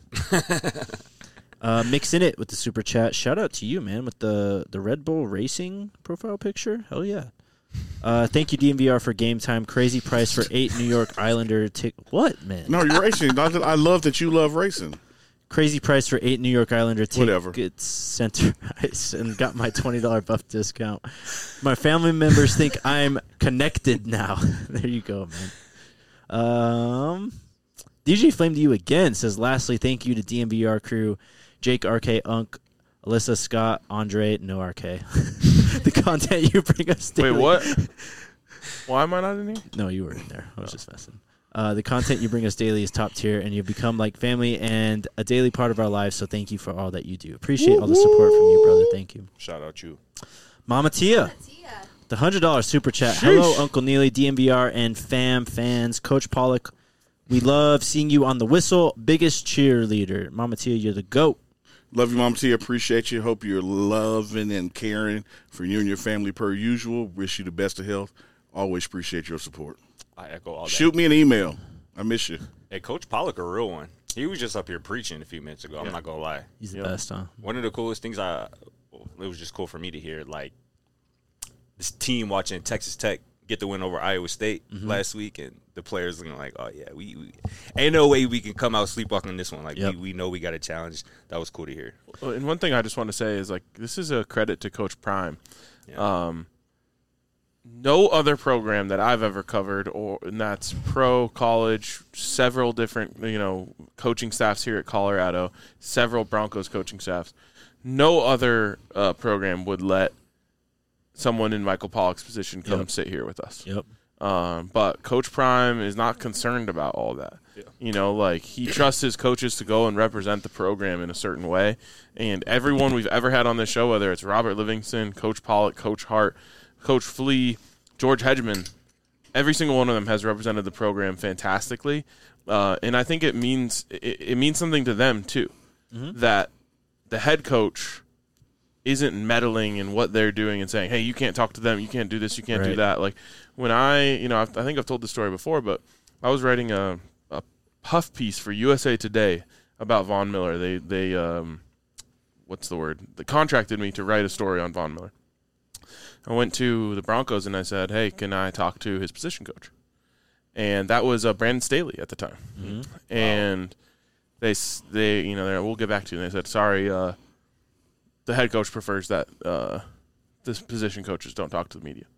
Uh, mixing it with the super chat. Shout out to you, man, with the the Red Bull Racing profile picture. Hell yeah. Uh, thank you, D M V R, for game time. Crazy price for eight New York Islander tick. What, man? No, you're racing. I I love that you love racing. Crazy price for eight New York Islander Whatever. tickets. Center Ice and got my twenty dollar buff discount. My family members think I'm connected now. There you go, man. Um, D J Flame to you again says. Lastly, thank you to D M V R crew, Jake, R K, Unk, Alyssa, Scott, Andre, no R K. The content you bring us wait, daily. what? Why am I not in here? No, you were in there. I was just messing. Uh, the content you bring us daily is top tier, and you've become like family and a daily part of our lives. So thank you for all that you do. Appreciate all the support from you, brother. Thank you. Shout out you. Mama Tia, Tia. the one hundred dollar super chat. Hello, Uncle Neely, D M V R, and fam fans. Coach Pollock, we love seeing you on the whistle. Biggest cheerleader. Mama Tia, you're the GOAT. Love you, Mama T. Appreciate you. Hope you're loving and caring for you and your family per usual. Wish you the best of health. Always appreciate your support. I echo all that. Shoot me an email. I miss you. Hey, Coach Pollock, a real one. He was just up here preaching a few minutes ago. I'm not gonna lie. He's the Yep. best, huh? One of the coolest things I, it was just cool for me to hear, like this team watching Texas Tech get the win over Iowa State last week, and the players looking like, oh yeah, we, we ain't no way we can come out sleepwalking this one. Like Yep. we, we know we got a challenge. That was cool to hear. Well, and one thing I just want to say is like this is a credit to Coach Prime. Yeah. Um, no other program that I've ever covered, or and that's pro, college, several different you know coaching staffs here at Colorado, several Broncos coaching staffs. No other uh, program would let someone in Michael Pollock's position come Yep. sit here with us. Yep. Um, but Coach Prime is not concerned about all that. Yeah. You know, like he trusts his coaches to go and represent the program in a certain way. And everyone we've ever had on this show, whether it's Robert Livingston, Coach Pollock, Coach Hart, Coach Flea, George Hedgeman, every single one of them has represented the program fantastically. Uh, and I think it means it, it means something to them too, that the head coach isn't meddling in what they're doing and saying, hey, you can't talk to them, you can't do this, you can't do Right. that. Like when I, you know, I've, I think I've told this story before, but I was writing a, a puff piece for U S A Today about Von Miller. They, they, um, what's the word? They contracted me to write a story on Von Miller. I went to the Broncos and I said, hey, can I talk to his position coach? And that was uh, Brandon Staley at the time. Mm-hmm. And they, s- they, you know, they're, we'll get back to you. And they said, sorry, uh, the head coach prefers that uh, this position coaches don't talk to the media.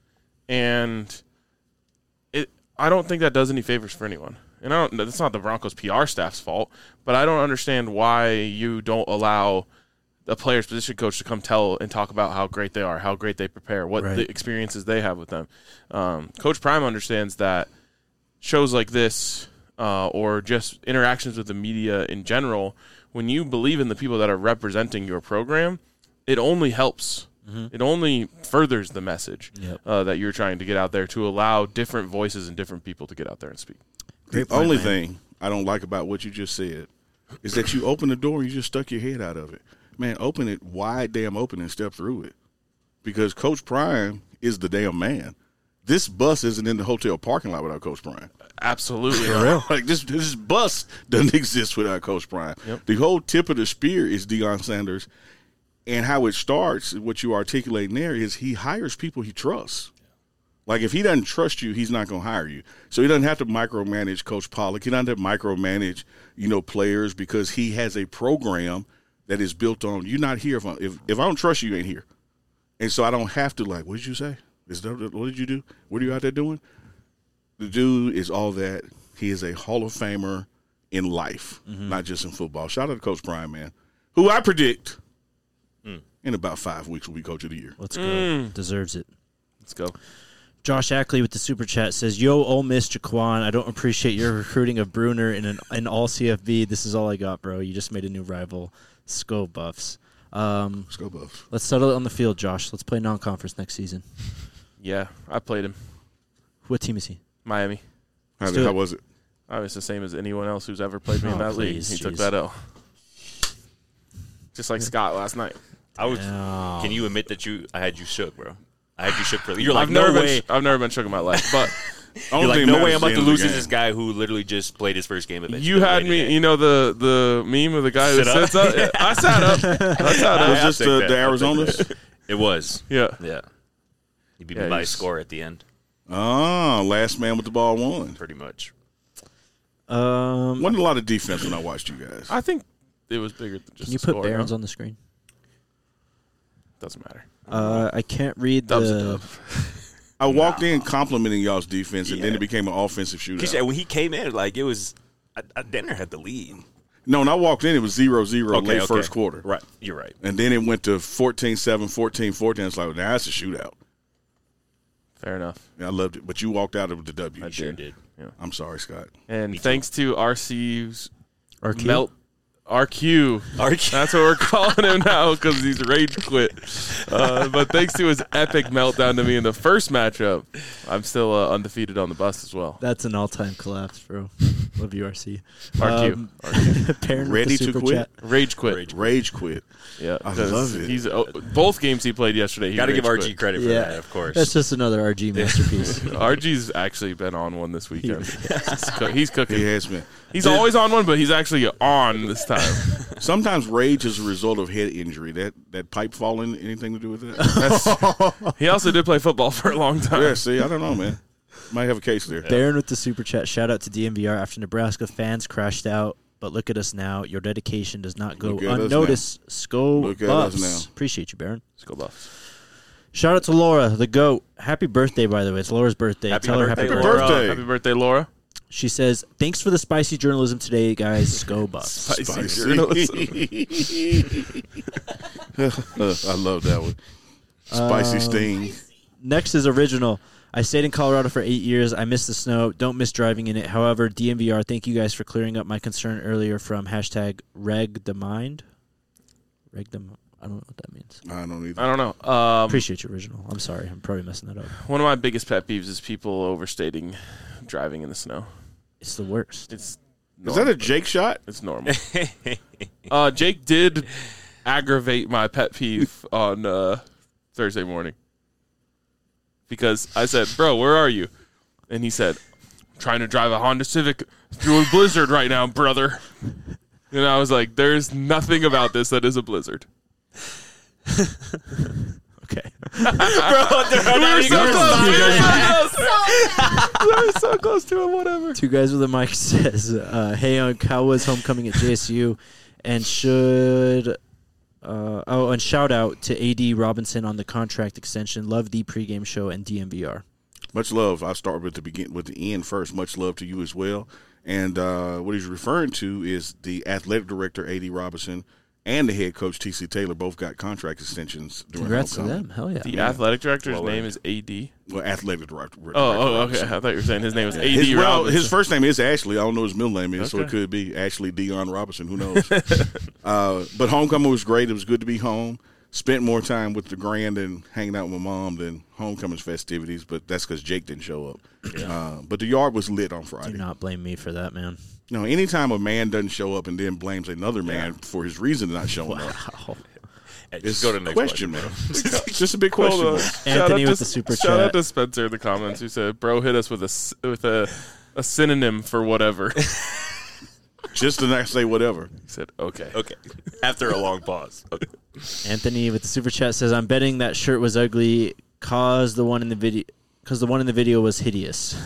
And it, I don't think that does any favors for anyone. And I don't. That's not the Broncos P R staff's fault, but I don't understand why you don't allow a player's position coach to come tell and talk about how great they are, how great they prepare, what Right. the experiences they have with them. Um, Coach Prime understands that shows like this uh, or just interactions with the media in general, when you believe in the people that are representing your program, it only helps. Mm-hmm. It only furthers the message Yep. uh, that you're trying to get out there to allow different voices and different people to get out there and speak. Great The point, only man. thing I don't like about what you just said is that you open the door and you just stuck your head out of it. Man, open it wide damn open and step through it. Because Coach Prime is the damn man. This bus isn't in the hotel parking lot without Coach Prime. Absolutely. Like this this bus doesn't exist without Coach Prime. Yep. The whole tip of the spear is Deion Sanders. And how it starts, what you articulate there is he hires people he trusts. Like, if he doesn't trust you, he's not going to hire you. So he doesn't have to micromanage Coach Pollock. He doesn't have to micromanage, you know, players because he has a program that is built on, you're not here. If I, if, if I don't trust you, you ain't here. And so I don't have to, like, what did you say? Is that, what did you do? What are you out there doing? The dude is all that. He is a Hall of Famer in life, Mm-hmm. not just in football. Shout out to Coach Prime, man, who I predict in about five weeks will be Coach of the Year. Let's go. Mm. Deserves it. Let's go. Josh Ackley with the super chat says, "Yo, Ole Miss Jaquan, I don't appreciate your recruiting of Bruner in an in all C F B. This is all I got, bro. You just made a new rival. Sko Buffs. Um, Let's go, Buffs. let's settle it on the field, Josh. Let's play non-conference next season. Yeah, I played him. What team is he? Miami. How, do how it. was it? I was the same as anyone else who's ever played me in Oh, that please, league. He took jeez. that L. Just like Scott last night. I was. Oh. Can you admit that you? I had you shook, bro. I had you shook for. You're like, I've no never way. been. I've never been shook in my life, but You're Only like, thing no matters way. is I'm about the to end of lose the to this game. guy who literally just played his first game of it. you had me. You know the the meme of the guy who Sit up? sits up. Yeah, I sat up. I sat Was up. this take the, that. the I'll take Arizonas? It was. Yeah. Yeah. You beat Yeah, me by a he's- score at the end, Oh, last man with the ball won. pretty much. Um, Wasn't a lot of defense when I watched you guys. I think it was bigger than just. can you the put score, Barons no? on the screen? Doesn't matter. Uh, I can't read Dub's a the. dub. I walked in complimenting y'all's defense, and then it became an offensive He shootout. said when he came in, like it was. I, I Denver had the lead. No, when I walked in, it was zero zero Okay, late okay. first quarter. Right. You're right. And then it went to fourteen seven, fourteen fourteen. It's like, now that's a shootout. Fair enough. Yeah, I loved it. But you walked out of the W. I Sure did. did. I'm sorry, Scott. And thanks to R C's R Q? melt. R Q. R Q. That's what we're calling him now because he's rage quit. Uh, but thanks to his epic meltdown to me in the first matchup, I'm still uh, undefeated on the bus as well. That's an all-time collapse, bro. Love you, R C. R Q. Um, R Q. Perrin with Ready the to super quit? chat. Rage quit. Rage quit. Yeah, I 'cause love it. He's oh, both games he played yesterday. He Got to give rage R G quit. credit for Yeah, that, of course. That's just another R G masterpiece. R G's actually been on one this weekend. he's, coo- he's cooking. He has been. He's always on one, but he's actually on this time. Sometimes rage is a result of head injury. That that pipe falling, anything to do with that? That's, he also did play football for a long time. Yeah, see, I don't know, man. Might have a case there. Baron with the super chat. Shout out to D M V R after Nebraska fans crashed out. But look at us now. Your dedication does not go Look at us unnoticed. Sko Look at us Buffs. now. Appreciate you, Baron. Let's go Buffs. Shout out to Laura, the GOAT. Happy birthday, by the way. It's Laura's birthday. Happy Tell her birthday, happy Laura. birthday. Birthday. Happy birthday, Laura. She says, thanks for the spicy journalism today, guys. Sko Buffs. Spicy Spicy. journalism. I love that one. Spicy Um, sting. Next is original. I stayed in Colorado for eight years. I miss the snow. Don't miss driving in it. However, D M V R, thank you guys for clearing up my concern earlier from hashtag reg the mind. Reg the I don't know what that means. I don't either. I don't know. Um, Appreciate you, original. I'm sorry. I'm probably messing that up. one of my biggest pet peeves is people overstating driving in the snow. It's the worst. It's Is normal. that a Jake shot? It's normal. uh, Jake did aggravate my pet peeve on uh, Thursday morning because I said, "Bro, where are you?" And he said, "I'm trying to drive a Honda Civic through a blizzard right now, brother." And I was like, "There's nothing about this that is a blizzard." Okay. We were so close. We were so close. We were so close to it. Whatever. Two guys with a mic says, uh, "Hey, on Cowboys homecoming at J S U, and should uh, oh, and shout out to A D Robinson on the contract extension. Love the pregame show and D M V R." Much love. I'll start with the begin with the end first. Much love to you as well. And uh, what he's referring to is the athletic director, A D Robinson, and the head coach T C Taylor both got contract extensions during Congrats to homecoming. them. Hell yeah. The Yeah. athletic director's Lower. name is A D. Well, athletic director. Oh, oh, okay. I thought you were saying his name was A D. His, well, Robinson. his first name is Ashley. I don't know what his middle name is, so Okay. it could be Ashley Dion Robinson. Who knows? uh, but homecoming was great. It was good to be home. Spent more time with the grand and hanging out with my mom than homecoming's festivities, but that's because Jake didn't show up. Uh, but the yard was lit on Friday. Do not blame me for that, man. No, anytime a man doesn't show up and then blames another man for his reason not showing up, Wow. Hey, it's just go to the next question, question, man. Just a big question. Hold on. mark. Shout Anthony out with to- the super shout out chat. to Spencer in the comments who said, "Bro, hit us with a s- with a a synonym for whatever." He Just to not say whatever. said, "Okay." Okay. After a long pause. Okay. Anthony with the super chat says, "I'm betting that shirt was ugly cause the one in the video because the one in the video was hideous."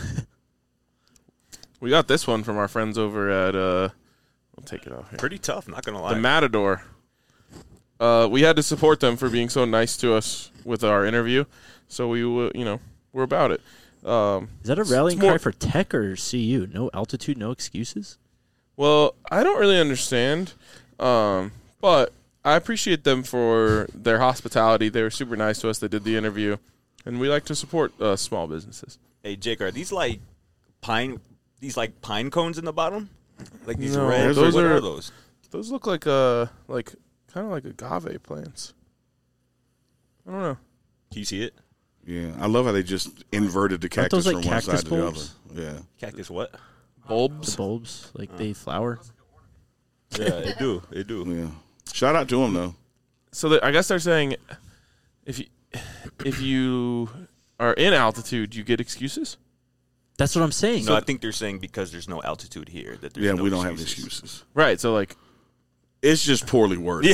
We got this one from our friends over at uh we'll take it off here. Pretty tough, not going to lie. The Matador. Uh, we had to support them for being so nice to us with our interview, so we, uh, you know, we're about it. Um, Is that a It's- rallying it's more- cry for Tech or C U? No altitude, no excuses. well, I don't really understand, um, but I appreciate them for their hospitality. They were super nice to us. They did the interview, and we like to support uh, small businesses. Hey, Jake, are these like pine these like pine cones in the bottom? Like these No, red those what are- are those? Those look like uh like kind of like agave plants. I don't know. Can you see it? Yeah, I love how they just inverted the Aren't cactus those like from one cactus side to the other. bulbs? Yeah. Cactus what? Bulbs. The bulbs, like they flower. Yeah, they do. They do. Yeah. Shout out to him though. So that, I guess they're saying if you if you are in altitude, you get excuses. That's what I'm saying. No, I think they're saying because there's no altitude here that there's Yeah, no we don't have excuses. excuses. Right. So like, It's just poorly worded.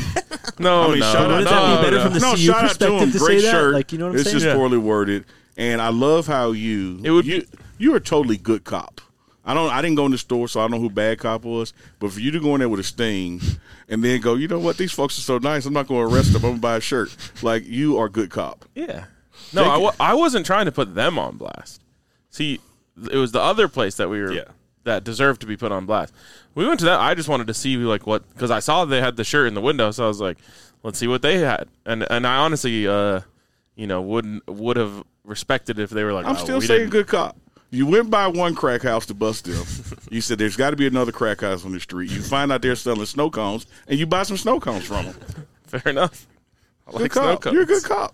no, I mean, no, shout out no, Wouldn't that be better no. from the no, C U shout out to perspective him. to Great say that? shirt. Like, you know what I'm it's saying? just Yeah. poorly worded, and I love how you. It would you, be- you are a totally good cop. I don't. I didn't go in the store, so I don't know who bad cop was. But for you to go in there with a sting, and then go, you know what? These folks are so nice. I'm not going to arrest them. I'm gonna buy a shirt. Like you are a good cop. Yeah. No, I, wa- I wasn't trying to put them on blast. See, it was the other place that we were Yeah. that deserved to be put on blast. We went to that. I just wanted to see like what because I saw they had the shirt in the window, so I was like, let's see what they had. And and I honestly, uh, you know, wouldn't would have respected if they were like, I'm oh, still we saying didn't- good cop. You went by one crack house to bust them. You said there's got to be another crack house on the street. You find out they're selling snow cones, and you buy some snow cones from them. Fair enough. I Good like snow cop. You're a good cones. cop.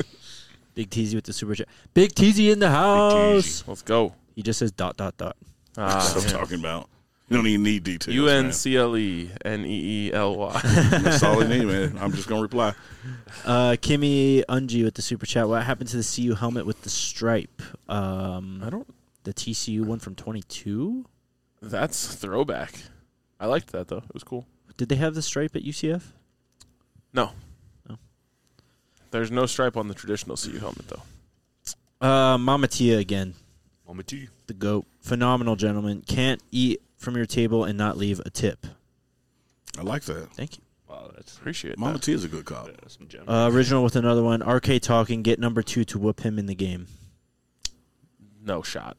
Big Teasy with the super chat. Big Teasy in the house. Let's go. He just says dot dot dot. Ah, That's what I'm yeah. talking about. You don't even need details. U man. N C L E N E E L Y. That's all I need, man. I'm just gonna reply. Uh, Kimmy Unji with the super chat. What happened to the C U helmet with the stripe? Um, I don't. the T C U one from twenty-two. That's throwback. I liked that though. It was cool. Did they have the stripe at U C F? No. No. There's no stripe on the traditional C U helmet though. Uh, Mama Tia again. Mama T. The goat. Phenomenal gentleman. Can't eat from your table and not leave a tip. I like that. Thank you. Wow, that's Appreciate Mama that. T is a good cop. that's some gem. Uh, original with another one. R K talking. Get number two to whoop him in the game. No shot.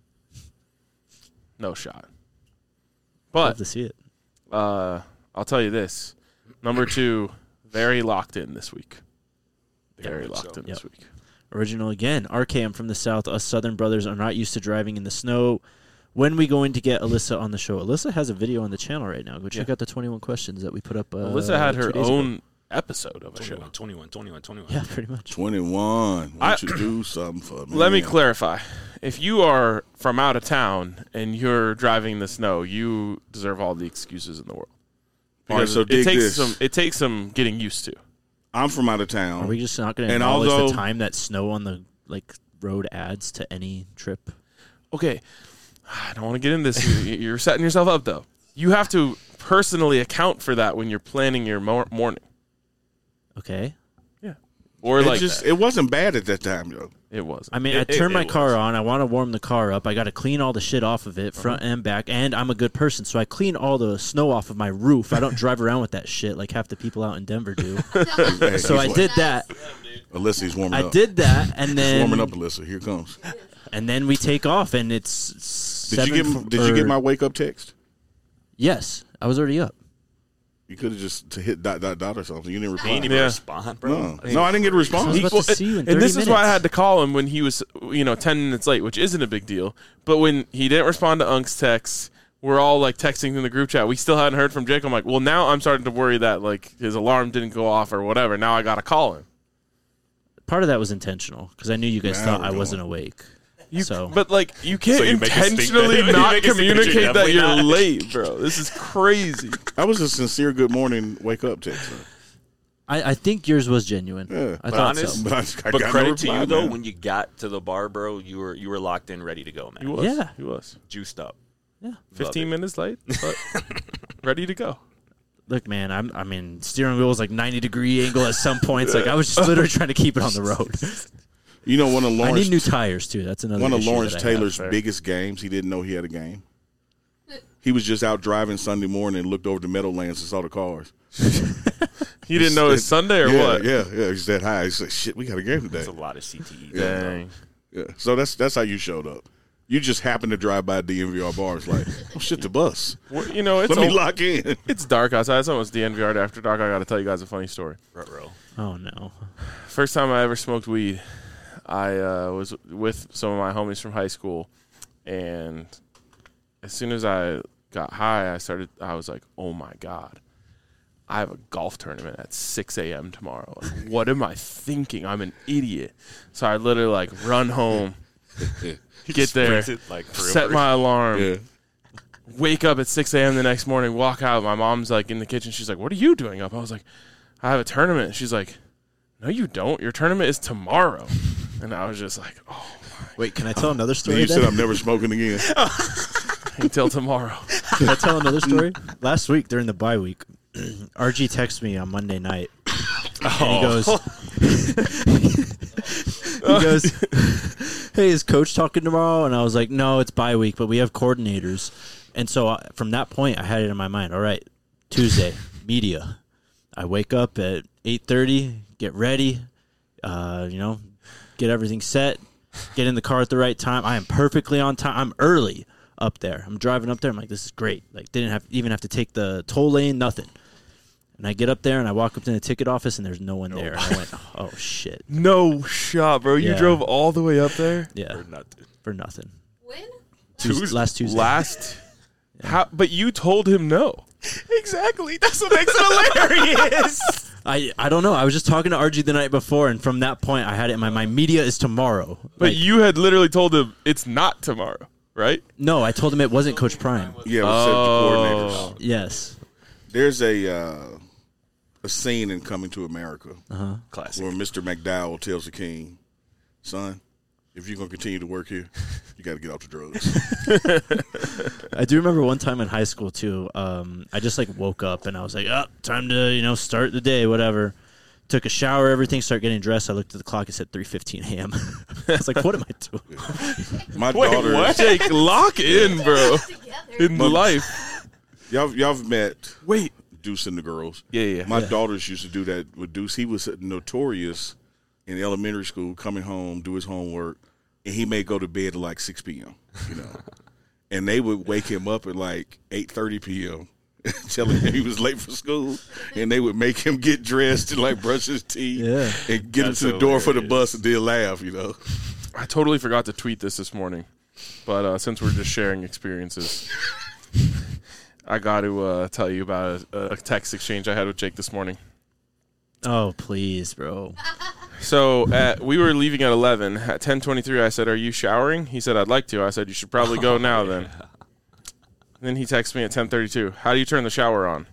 No shot. Love But to see it. uh, I'll tell you this: number two, very locked in this week. Very much locked so. in this Yep. week. Original again. R K, I'm from the South. Us Southern brothers are not used to driving in the snow. When we going to get Alyssa on the show? Alyssa has a video on the channel right now. Go check Yeah. out the twenty-one questions that we put up. Uh, Alyssa had her two days ago. own episode of a show. twenty-one, twenty-one, twenty-one, twenty-one. Yeah, pretty much. twenty-one. Why I- don't you do something for me? Let me clarify. If you are from out of town and you're driving the snow, you deserve all the excuses in the world. All right, Because so it dig takes this. some. It takes some getting used to. I'm from out of town. Are we just not going to And acknowledge although- the time that snow on the like road adds to any trip? Okay, I don't want to get into this. You- You're setting yourself up, though. You have to personally account for that when you're planning your mor- morning. Okay. Or it like just that. it wasn't bad at that time, though. It wasn't. I mean, It- I it- turn my it car was. on. I want to warm the car up. I got to clean all the shit off of it, front and back. And I'm a good person, so I clean all the snow off of my roof. I don't drive around with that shit like half the people out in Denver do. Hey, So he's I like- did that. Alyssa, he's warming I up. did that, and He's then warming up, Alyssa. Here it comes. and then we take off, and it's Did seven you get f- Did you or- get my wake up text? Yes, I was already up. You could have just to hit dot dot dot or something. You didn't He reply. didn't even Yeah. respond, bro. No, no, I didn't get a I response. was about to see you in thirty and this is why I minutes. had to call him when he was, you know, ten minutes late, which isn't a big deal. But when he didn't respond to Unk's text, we're all like texting in the group chat. We still hadn't heard from Jake. I'm like, well, now I'm starting to worry that like his alarm didn't go off or whatever. Now I got to call him. Part of that was intentional because I knew you guys Now thought we're I going. wasn't awake. You, So- but like, you can't So you make us think intentionally that- you not make us think that you're communicate that definitely you're not. late, bro. This is crazy. That was a sincere good morning, wake up text. I, I think yours was genuine. Yeah. I But thought honest- so. But, I, I But got no credit to reply, you though, man. when you got to the bar, bro, you were you were locked in, ready to go, He man. was. Yeah. He was. Juiced up. Yeah. fifteen minutes late, but ready to go. Look, man, I'm. I mean, steering wheel was like ninety degree angle at some points. Like I was just literally trying to keep it on the road. You know, one of I Lawrence, need new tires too. That's another. one of issue Lawrence that I have. Taylor's Fair. biggest games, he didn't know he had a game. He was just out driving Sunday morning and looked over the Meadowlands and saw the cars. He didn't know it's Sunday or yeah, what? Yeah, yeah. He said hi. He said, "Shit, we got a game today." There's a lot of C T E. Dang. Yeah. So that's that's how you showed up. You just happened to drive by D N V R bars, like, oh shit, the bus. Well, you know, it's Let me al- lock in. it's dark outside. It's almost D N V R after dark. I got to tell you guys a funny story. Ruh-roh. Oh no. First time I ever smoked weed, I uh, was with some of my homies from high school, and as soon as I got high, I started. I was like, "Oh my god, I have a golf tournament at six a.m. tomorrow. Like, what am I thinking? I'm an idiot." So I literally like run home, get there, Sprinted, like, for real, set for real. my alarm, Yeah. wake up at six a.m. the next morning, walk out. My mom's like in the kitchen. She's like, "What are you doing up?" I was like, "I have a tournament." She's like, "No, you don't. Your tournament is tomorrow." And I was just like, "Oh, Wait, can I tell another Then story? you said then? I'm never smoking again. until tomorrow." Can I tell another story? Last week during the bye week, R G texted me on Monday night. And he goes, he goes, hey, is coach talking tomorrow? And I was like, no, it's bye week, but we have coordinators. And so uh, from that point, I had it in my mind. All right, Tuesday, media. I wake up at eight thirty, get ready, uh, you know, get everything set, get in the car at the right time. I am perfectly on time. I'm early up there. I'm driving up there. I'm like, this is great. Like, didn't have even have to take the toll lane, nothing. And I get up there and I walk up to the ticket office and there's no one there. And I went, oh shit, No shot, bro. You Yeah. drove all the way up there yeah, Or nothing. for nothing. When? Tues- last Tuesday. last. How? But you told him no. Exactly. That's what makes it hilarious. I, I don't know. I was just talking to R G the night before, and from that point, I had it in my mind. Media is tomorrow. But Like, you had literally told him it's not tomorrow, right? no, I told him it wasn't Coach Prime. Yeah, we Oh. said the coordinators. Yes. There's a uh, a scene in Coming to America Classic. where Mister McDowell tells the king, son, if you're going to continue to work here, you got to get off the drugs. I do remember one time in high school too. Um, I just like woke up and I was like, "Oh, time to you know start the day, whatever." Took a shower, everything, started getting dressed. I looked at the clock; it said three fifteen a.m. I was like, "What am I doing?" My daughter, Jake, lock in, bro. Together. In life. y'all, y'all have met Wait. Deuce and the girls. Yeah, yeah. My daughters used to do that with Deuce. He was notorious in elementary school, coming home, do his homework, and he may go to bed at like six p.m., you know. And they would wake him up at like eight thirty p.m., telling him he was late for school, and they would make him get dressed and like brush his teeth Yeah. and get That's him to the door for the hilarious. bus and then laugh, you know. I totally forgot to tweet this this morning, but uh, since we're just sharing experiences, I got to uh, tell you about a, a text exchange I had with Jake this morning. Oh, please, bro. So at, we were leaving at eleven. At ten twenty-three, I said, "Are you showering?" He said, "I'd like to." I said, "You should probably go now then." Then he texted me at ten thirty-two. "How do you turn the shower on?"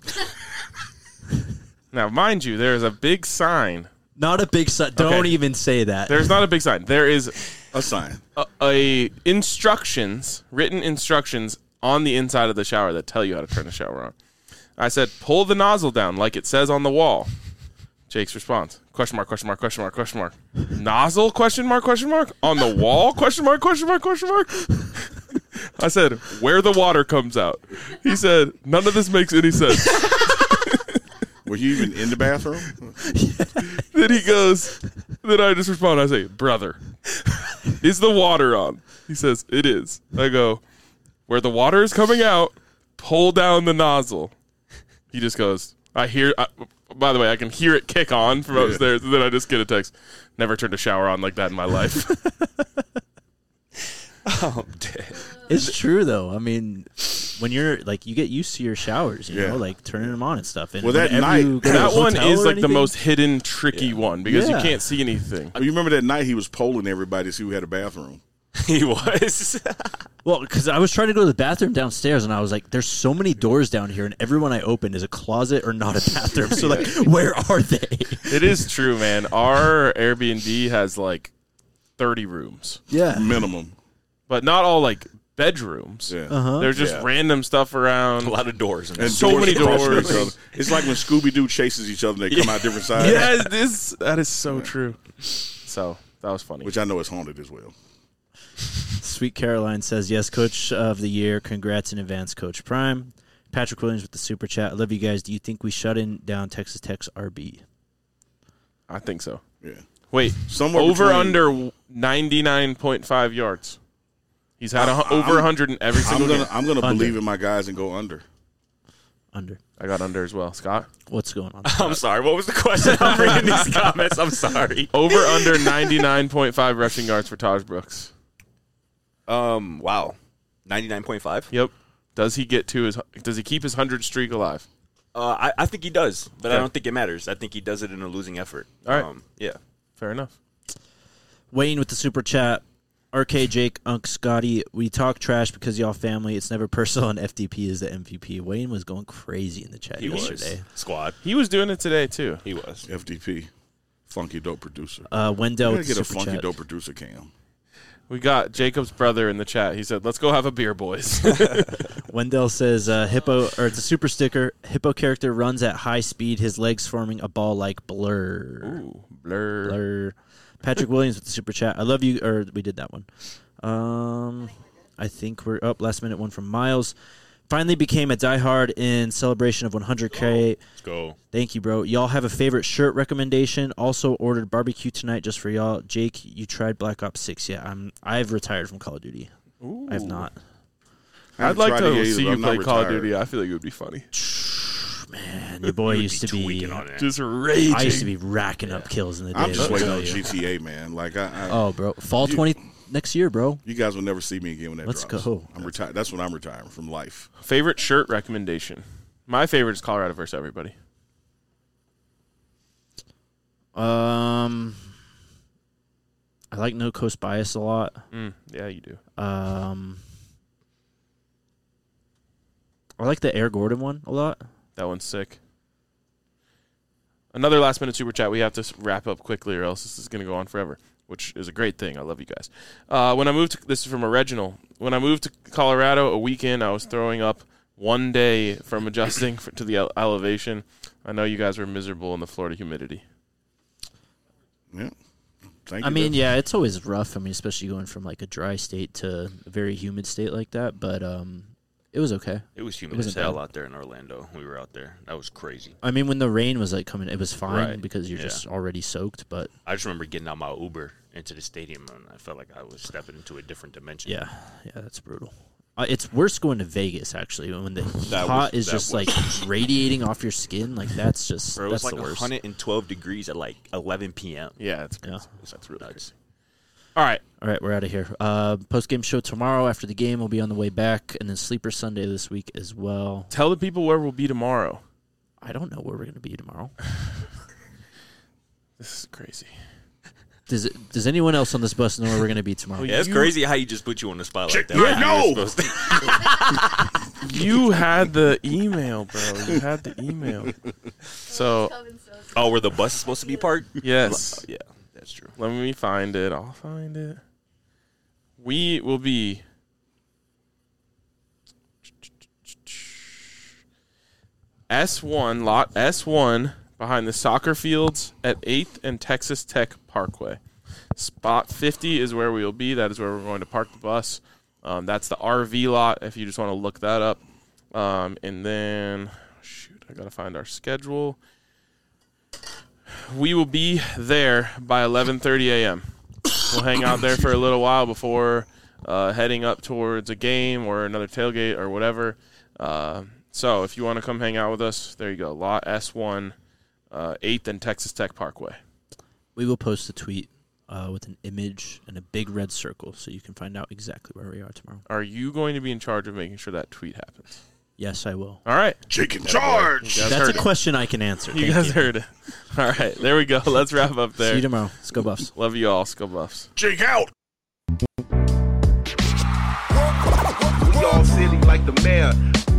Now, mind you, there is a big sign. Not a big su- Don't Okay. even say that. There's not a big sign. There is A sign. a, a instructions, written instructions on the inside of the shower that tell you how to turn the shower on. I said, "Pull the nozzle down like it says on the wall." Jake's response: question mark, question mark, question mark, question mark. Nozzle? Question mark, question mark. On the wall? Question mark, question mark, question mark. I said, "Where the water comes out." He said, "None of this makes any sense." Were you even in the bathroom? Then he goes, then I just respond. I say, "Brother, is the water on?" He says, "It is." I go, "Where the water is coming out, pull down the nozzle." He just goes, I hear. I, by the way, I can hear it kick on from Yeah. upstairs, and then I just get a text. Never turned a shower on like that in my life. Oh, I'm dead. It's true though. I mean, when you're like, you get used to your showers, you Yeah. know, like turning them on and stuff. And Well, that whenever night- you go to a That one hotel is or like the anything- most hidden, tricky one because Yeah. you can't see anything. You remember that night he was polling everybody to see who had a bathroom. He was. Well, because I was trying to go to the bathroom downstairs, and I was like, "There's so many doors down here, and every one I open is a closet or not a bathroom. So, like, where are they?" It is true, man. Our Airbnb has like thirty rooms, Yeah. Minimum. but not all like bedrooms. Yeah. Uh-huh. There's just Yeah. random stuff around. A lot of doors. In And that. So many across from doors. each other. It's like when Scooby Doo chases each other and they come out different sides. Yes, this that is so true. So that was funny. Which I know is haunted as well. Sweet Caroline says, "Yes, Coach of the Year. Congrats in advance, Coach Prime." Patrick Williams with the super chat. I love you guys. Do you think we shut in down Texas Tech's R B? I think so. Yeah. Wait, Somewhere over between- under ninety-nine point five yards. He's had a, hu- over one hundred in every I'm single gonna game. I'm gonna Under. believe in my guys and go under. Under. I got under as well. Scott? What's going on? I'm sorry. What was the question? I'm reading these comments. I'm sorry. Over under ninety-nine point five rushing yards for Taj Brooks. Um. Wow. ninety-nine point five. Yep. Does he get to his does he keep his one hundred streak alive? Uh, I, I think he does, but I Okay. don't think it matters. I think he does it in a losing effort. All right. Um, yeah. Fair enough. Wayne with the super chat. R K, Jake, Unk, Scotty, we talk trash because y'all family. It's never personal, and F D P is the M V P. Wayne was going crazy in the chat He yesterday. was. Squad. He was doing it today too. He was. F D P. Funky dope producer. Uh, Wendell I with gotta the get a super funky chat. dope producer cam. We got Jacob's brother in the chat. He said, "Let's go have a beer, boys." Wendell says, uh, "Hippo, or it's a super sticker. Hippo character runs at high speed. His legs forming a ball like blur." Ooh, blur. Blur. Patrick Williams with the super chat. I love you. Or we did that one. Um, I think we're up. Last minute one from Miles. Finally became a diehard in celebration of one hundred K. Let's go. Thank you, bro. Y'all have a favorite shirt recommendation? Also ordered barbecue tonight just for y'all. Jake, you tried Black Ops six? Yeah, I'm. I've retired from Call of Duty. I have not. I I'd haven't like tried to it either, see but you I'm play not Call of retired. Duty. I feel like it would be funny. Man, your boy He would used to be. tweaking on it. Just raging. I used to be racking up kills in the day. I'm just let me waiting tell on you. G T A, man. Like I, I Oh, bro, fall You- twenty next year, bro. you guys will never see me again when that Let's drops. go. I'm retired. That's when I'm retiring from life. Favorite shirt recommendation. My favorite is Colorado versus everybody. Um, I like No Coast Bias a lot. Mm, yeah, you do. Um, I like the Air Gordon one a lot. That one's sick. Another last minute super chat. We have to s- wrap up quickly, or else this is going to go on forever, which is a great thing. I love you guys. Uh, when I moved, to, this is from a Reginald. When I moved to Colorado a weekend, I was throwing up one day from adjusting for, to the ele- elevation. I know you guys were miserable in the Florida humidity. Yeah. Thank I you. mean, though. yeah, it's always rough. I mean, especially going from like a dry state to a very humid state like that. But um, it was okay. It was humid It as wasn't hell bad. out there in Orlando. We were out there. That was crazy. I mean, when the rain was like coming, it was fine Right, because you're yeah. just already soaked. But I just remember getting out my Uber into the stadium, and I felt like I was stepping into a different dimension. yeah, yeah, that's brutal. Uh, it's worse going to Vegas actually when the That hot was- is that just was- like radiating off your skin. Like that's just Bro, it that's was like the worst. one hundred twelve degrees at like eleven p.m. Yeah, it's Yeah. that's really Nuts. crazy. All right. All right, we're out of here. Uh, Post game show tomorrow after the game. We'll be on the way back, and then Sleeper Sunday this week as well. Tell the people where we'll be tomorrow. I don't know where we're going to be tomorrow. This is crazy. Does it, Does anyone else on this bus know where we're going to be tomorrow? Yeah, it's You- crazy how you just put you on the spot like that. Yeah, Like you no. were supposed to- You had the email, bro. You had the email. So, Coming so Oh, where the bus is supposed to be parked? yes. Yeah, that's true. Let me find it. I'll find it. We will be S one, lot S one, behind the soccer fields at eighth and Texas Tech Parkway. Spot fifty is where we will be. That is where we're going to park the bus. Um, that's the R V lot, if you just want to look that up. Um, and then, shoot, I got to find our schedule. We will be there by eleven thirty a.m. We'll hang out there for a little while before uh, heading up towards a game or another tailgate or whatever. Uh, so if you want to come hang out with us, there you go. Lot S one, uh, eighth and Texas Tech Parkway. We will post a tweet uh, with an image and a big red circle so you can find out exactly where we are tomorrow. Are you going to be in charge of making sure that tweet happens? Yes, I will. All right. Jake in charge. You guys That's heard a it. question I can answer. You Thank guys you. heard it. All right. There we go. Let's wrap up there. See you tomorrow. Let's go Buffs. Love you all. Skull Buffs. Jake out. We all silly like the mayor.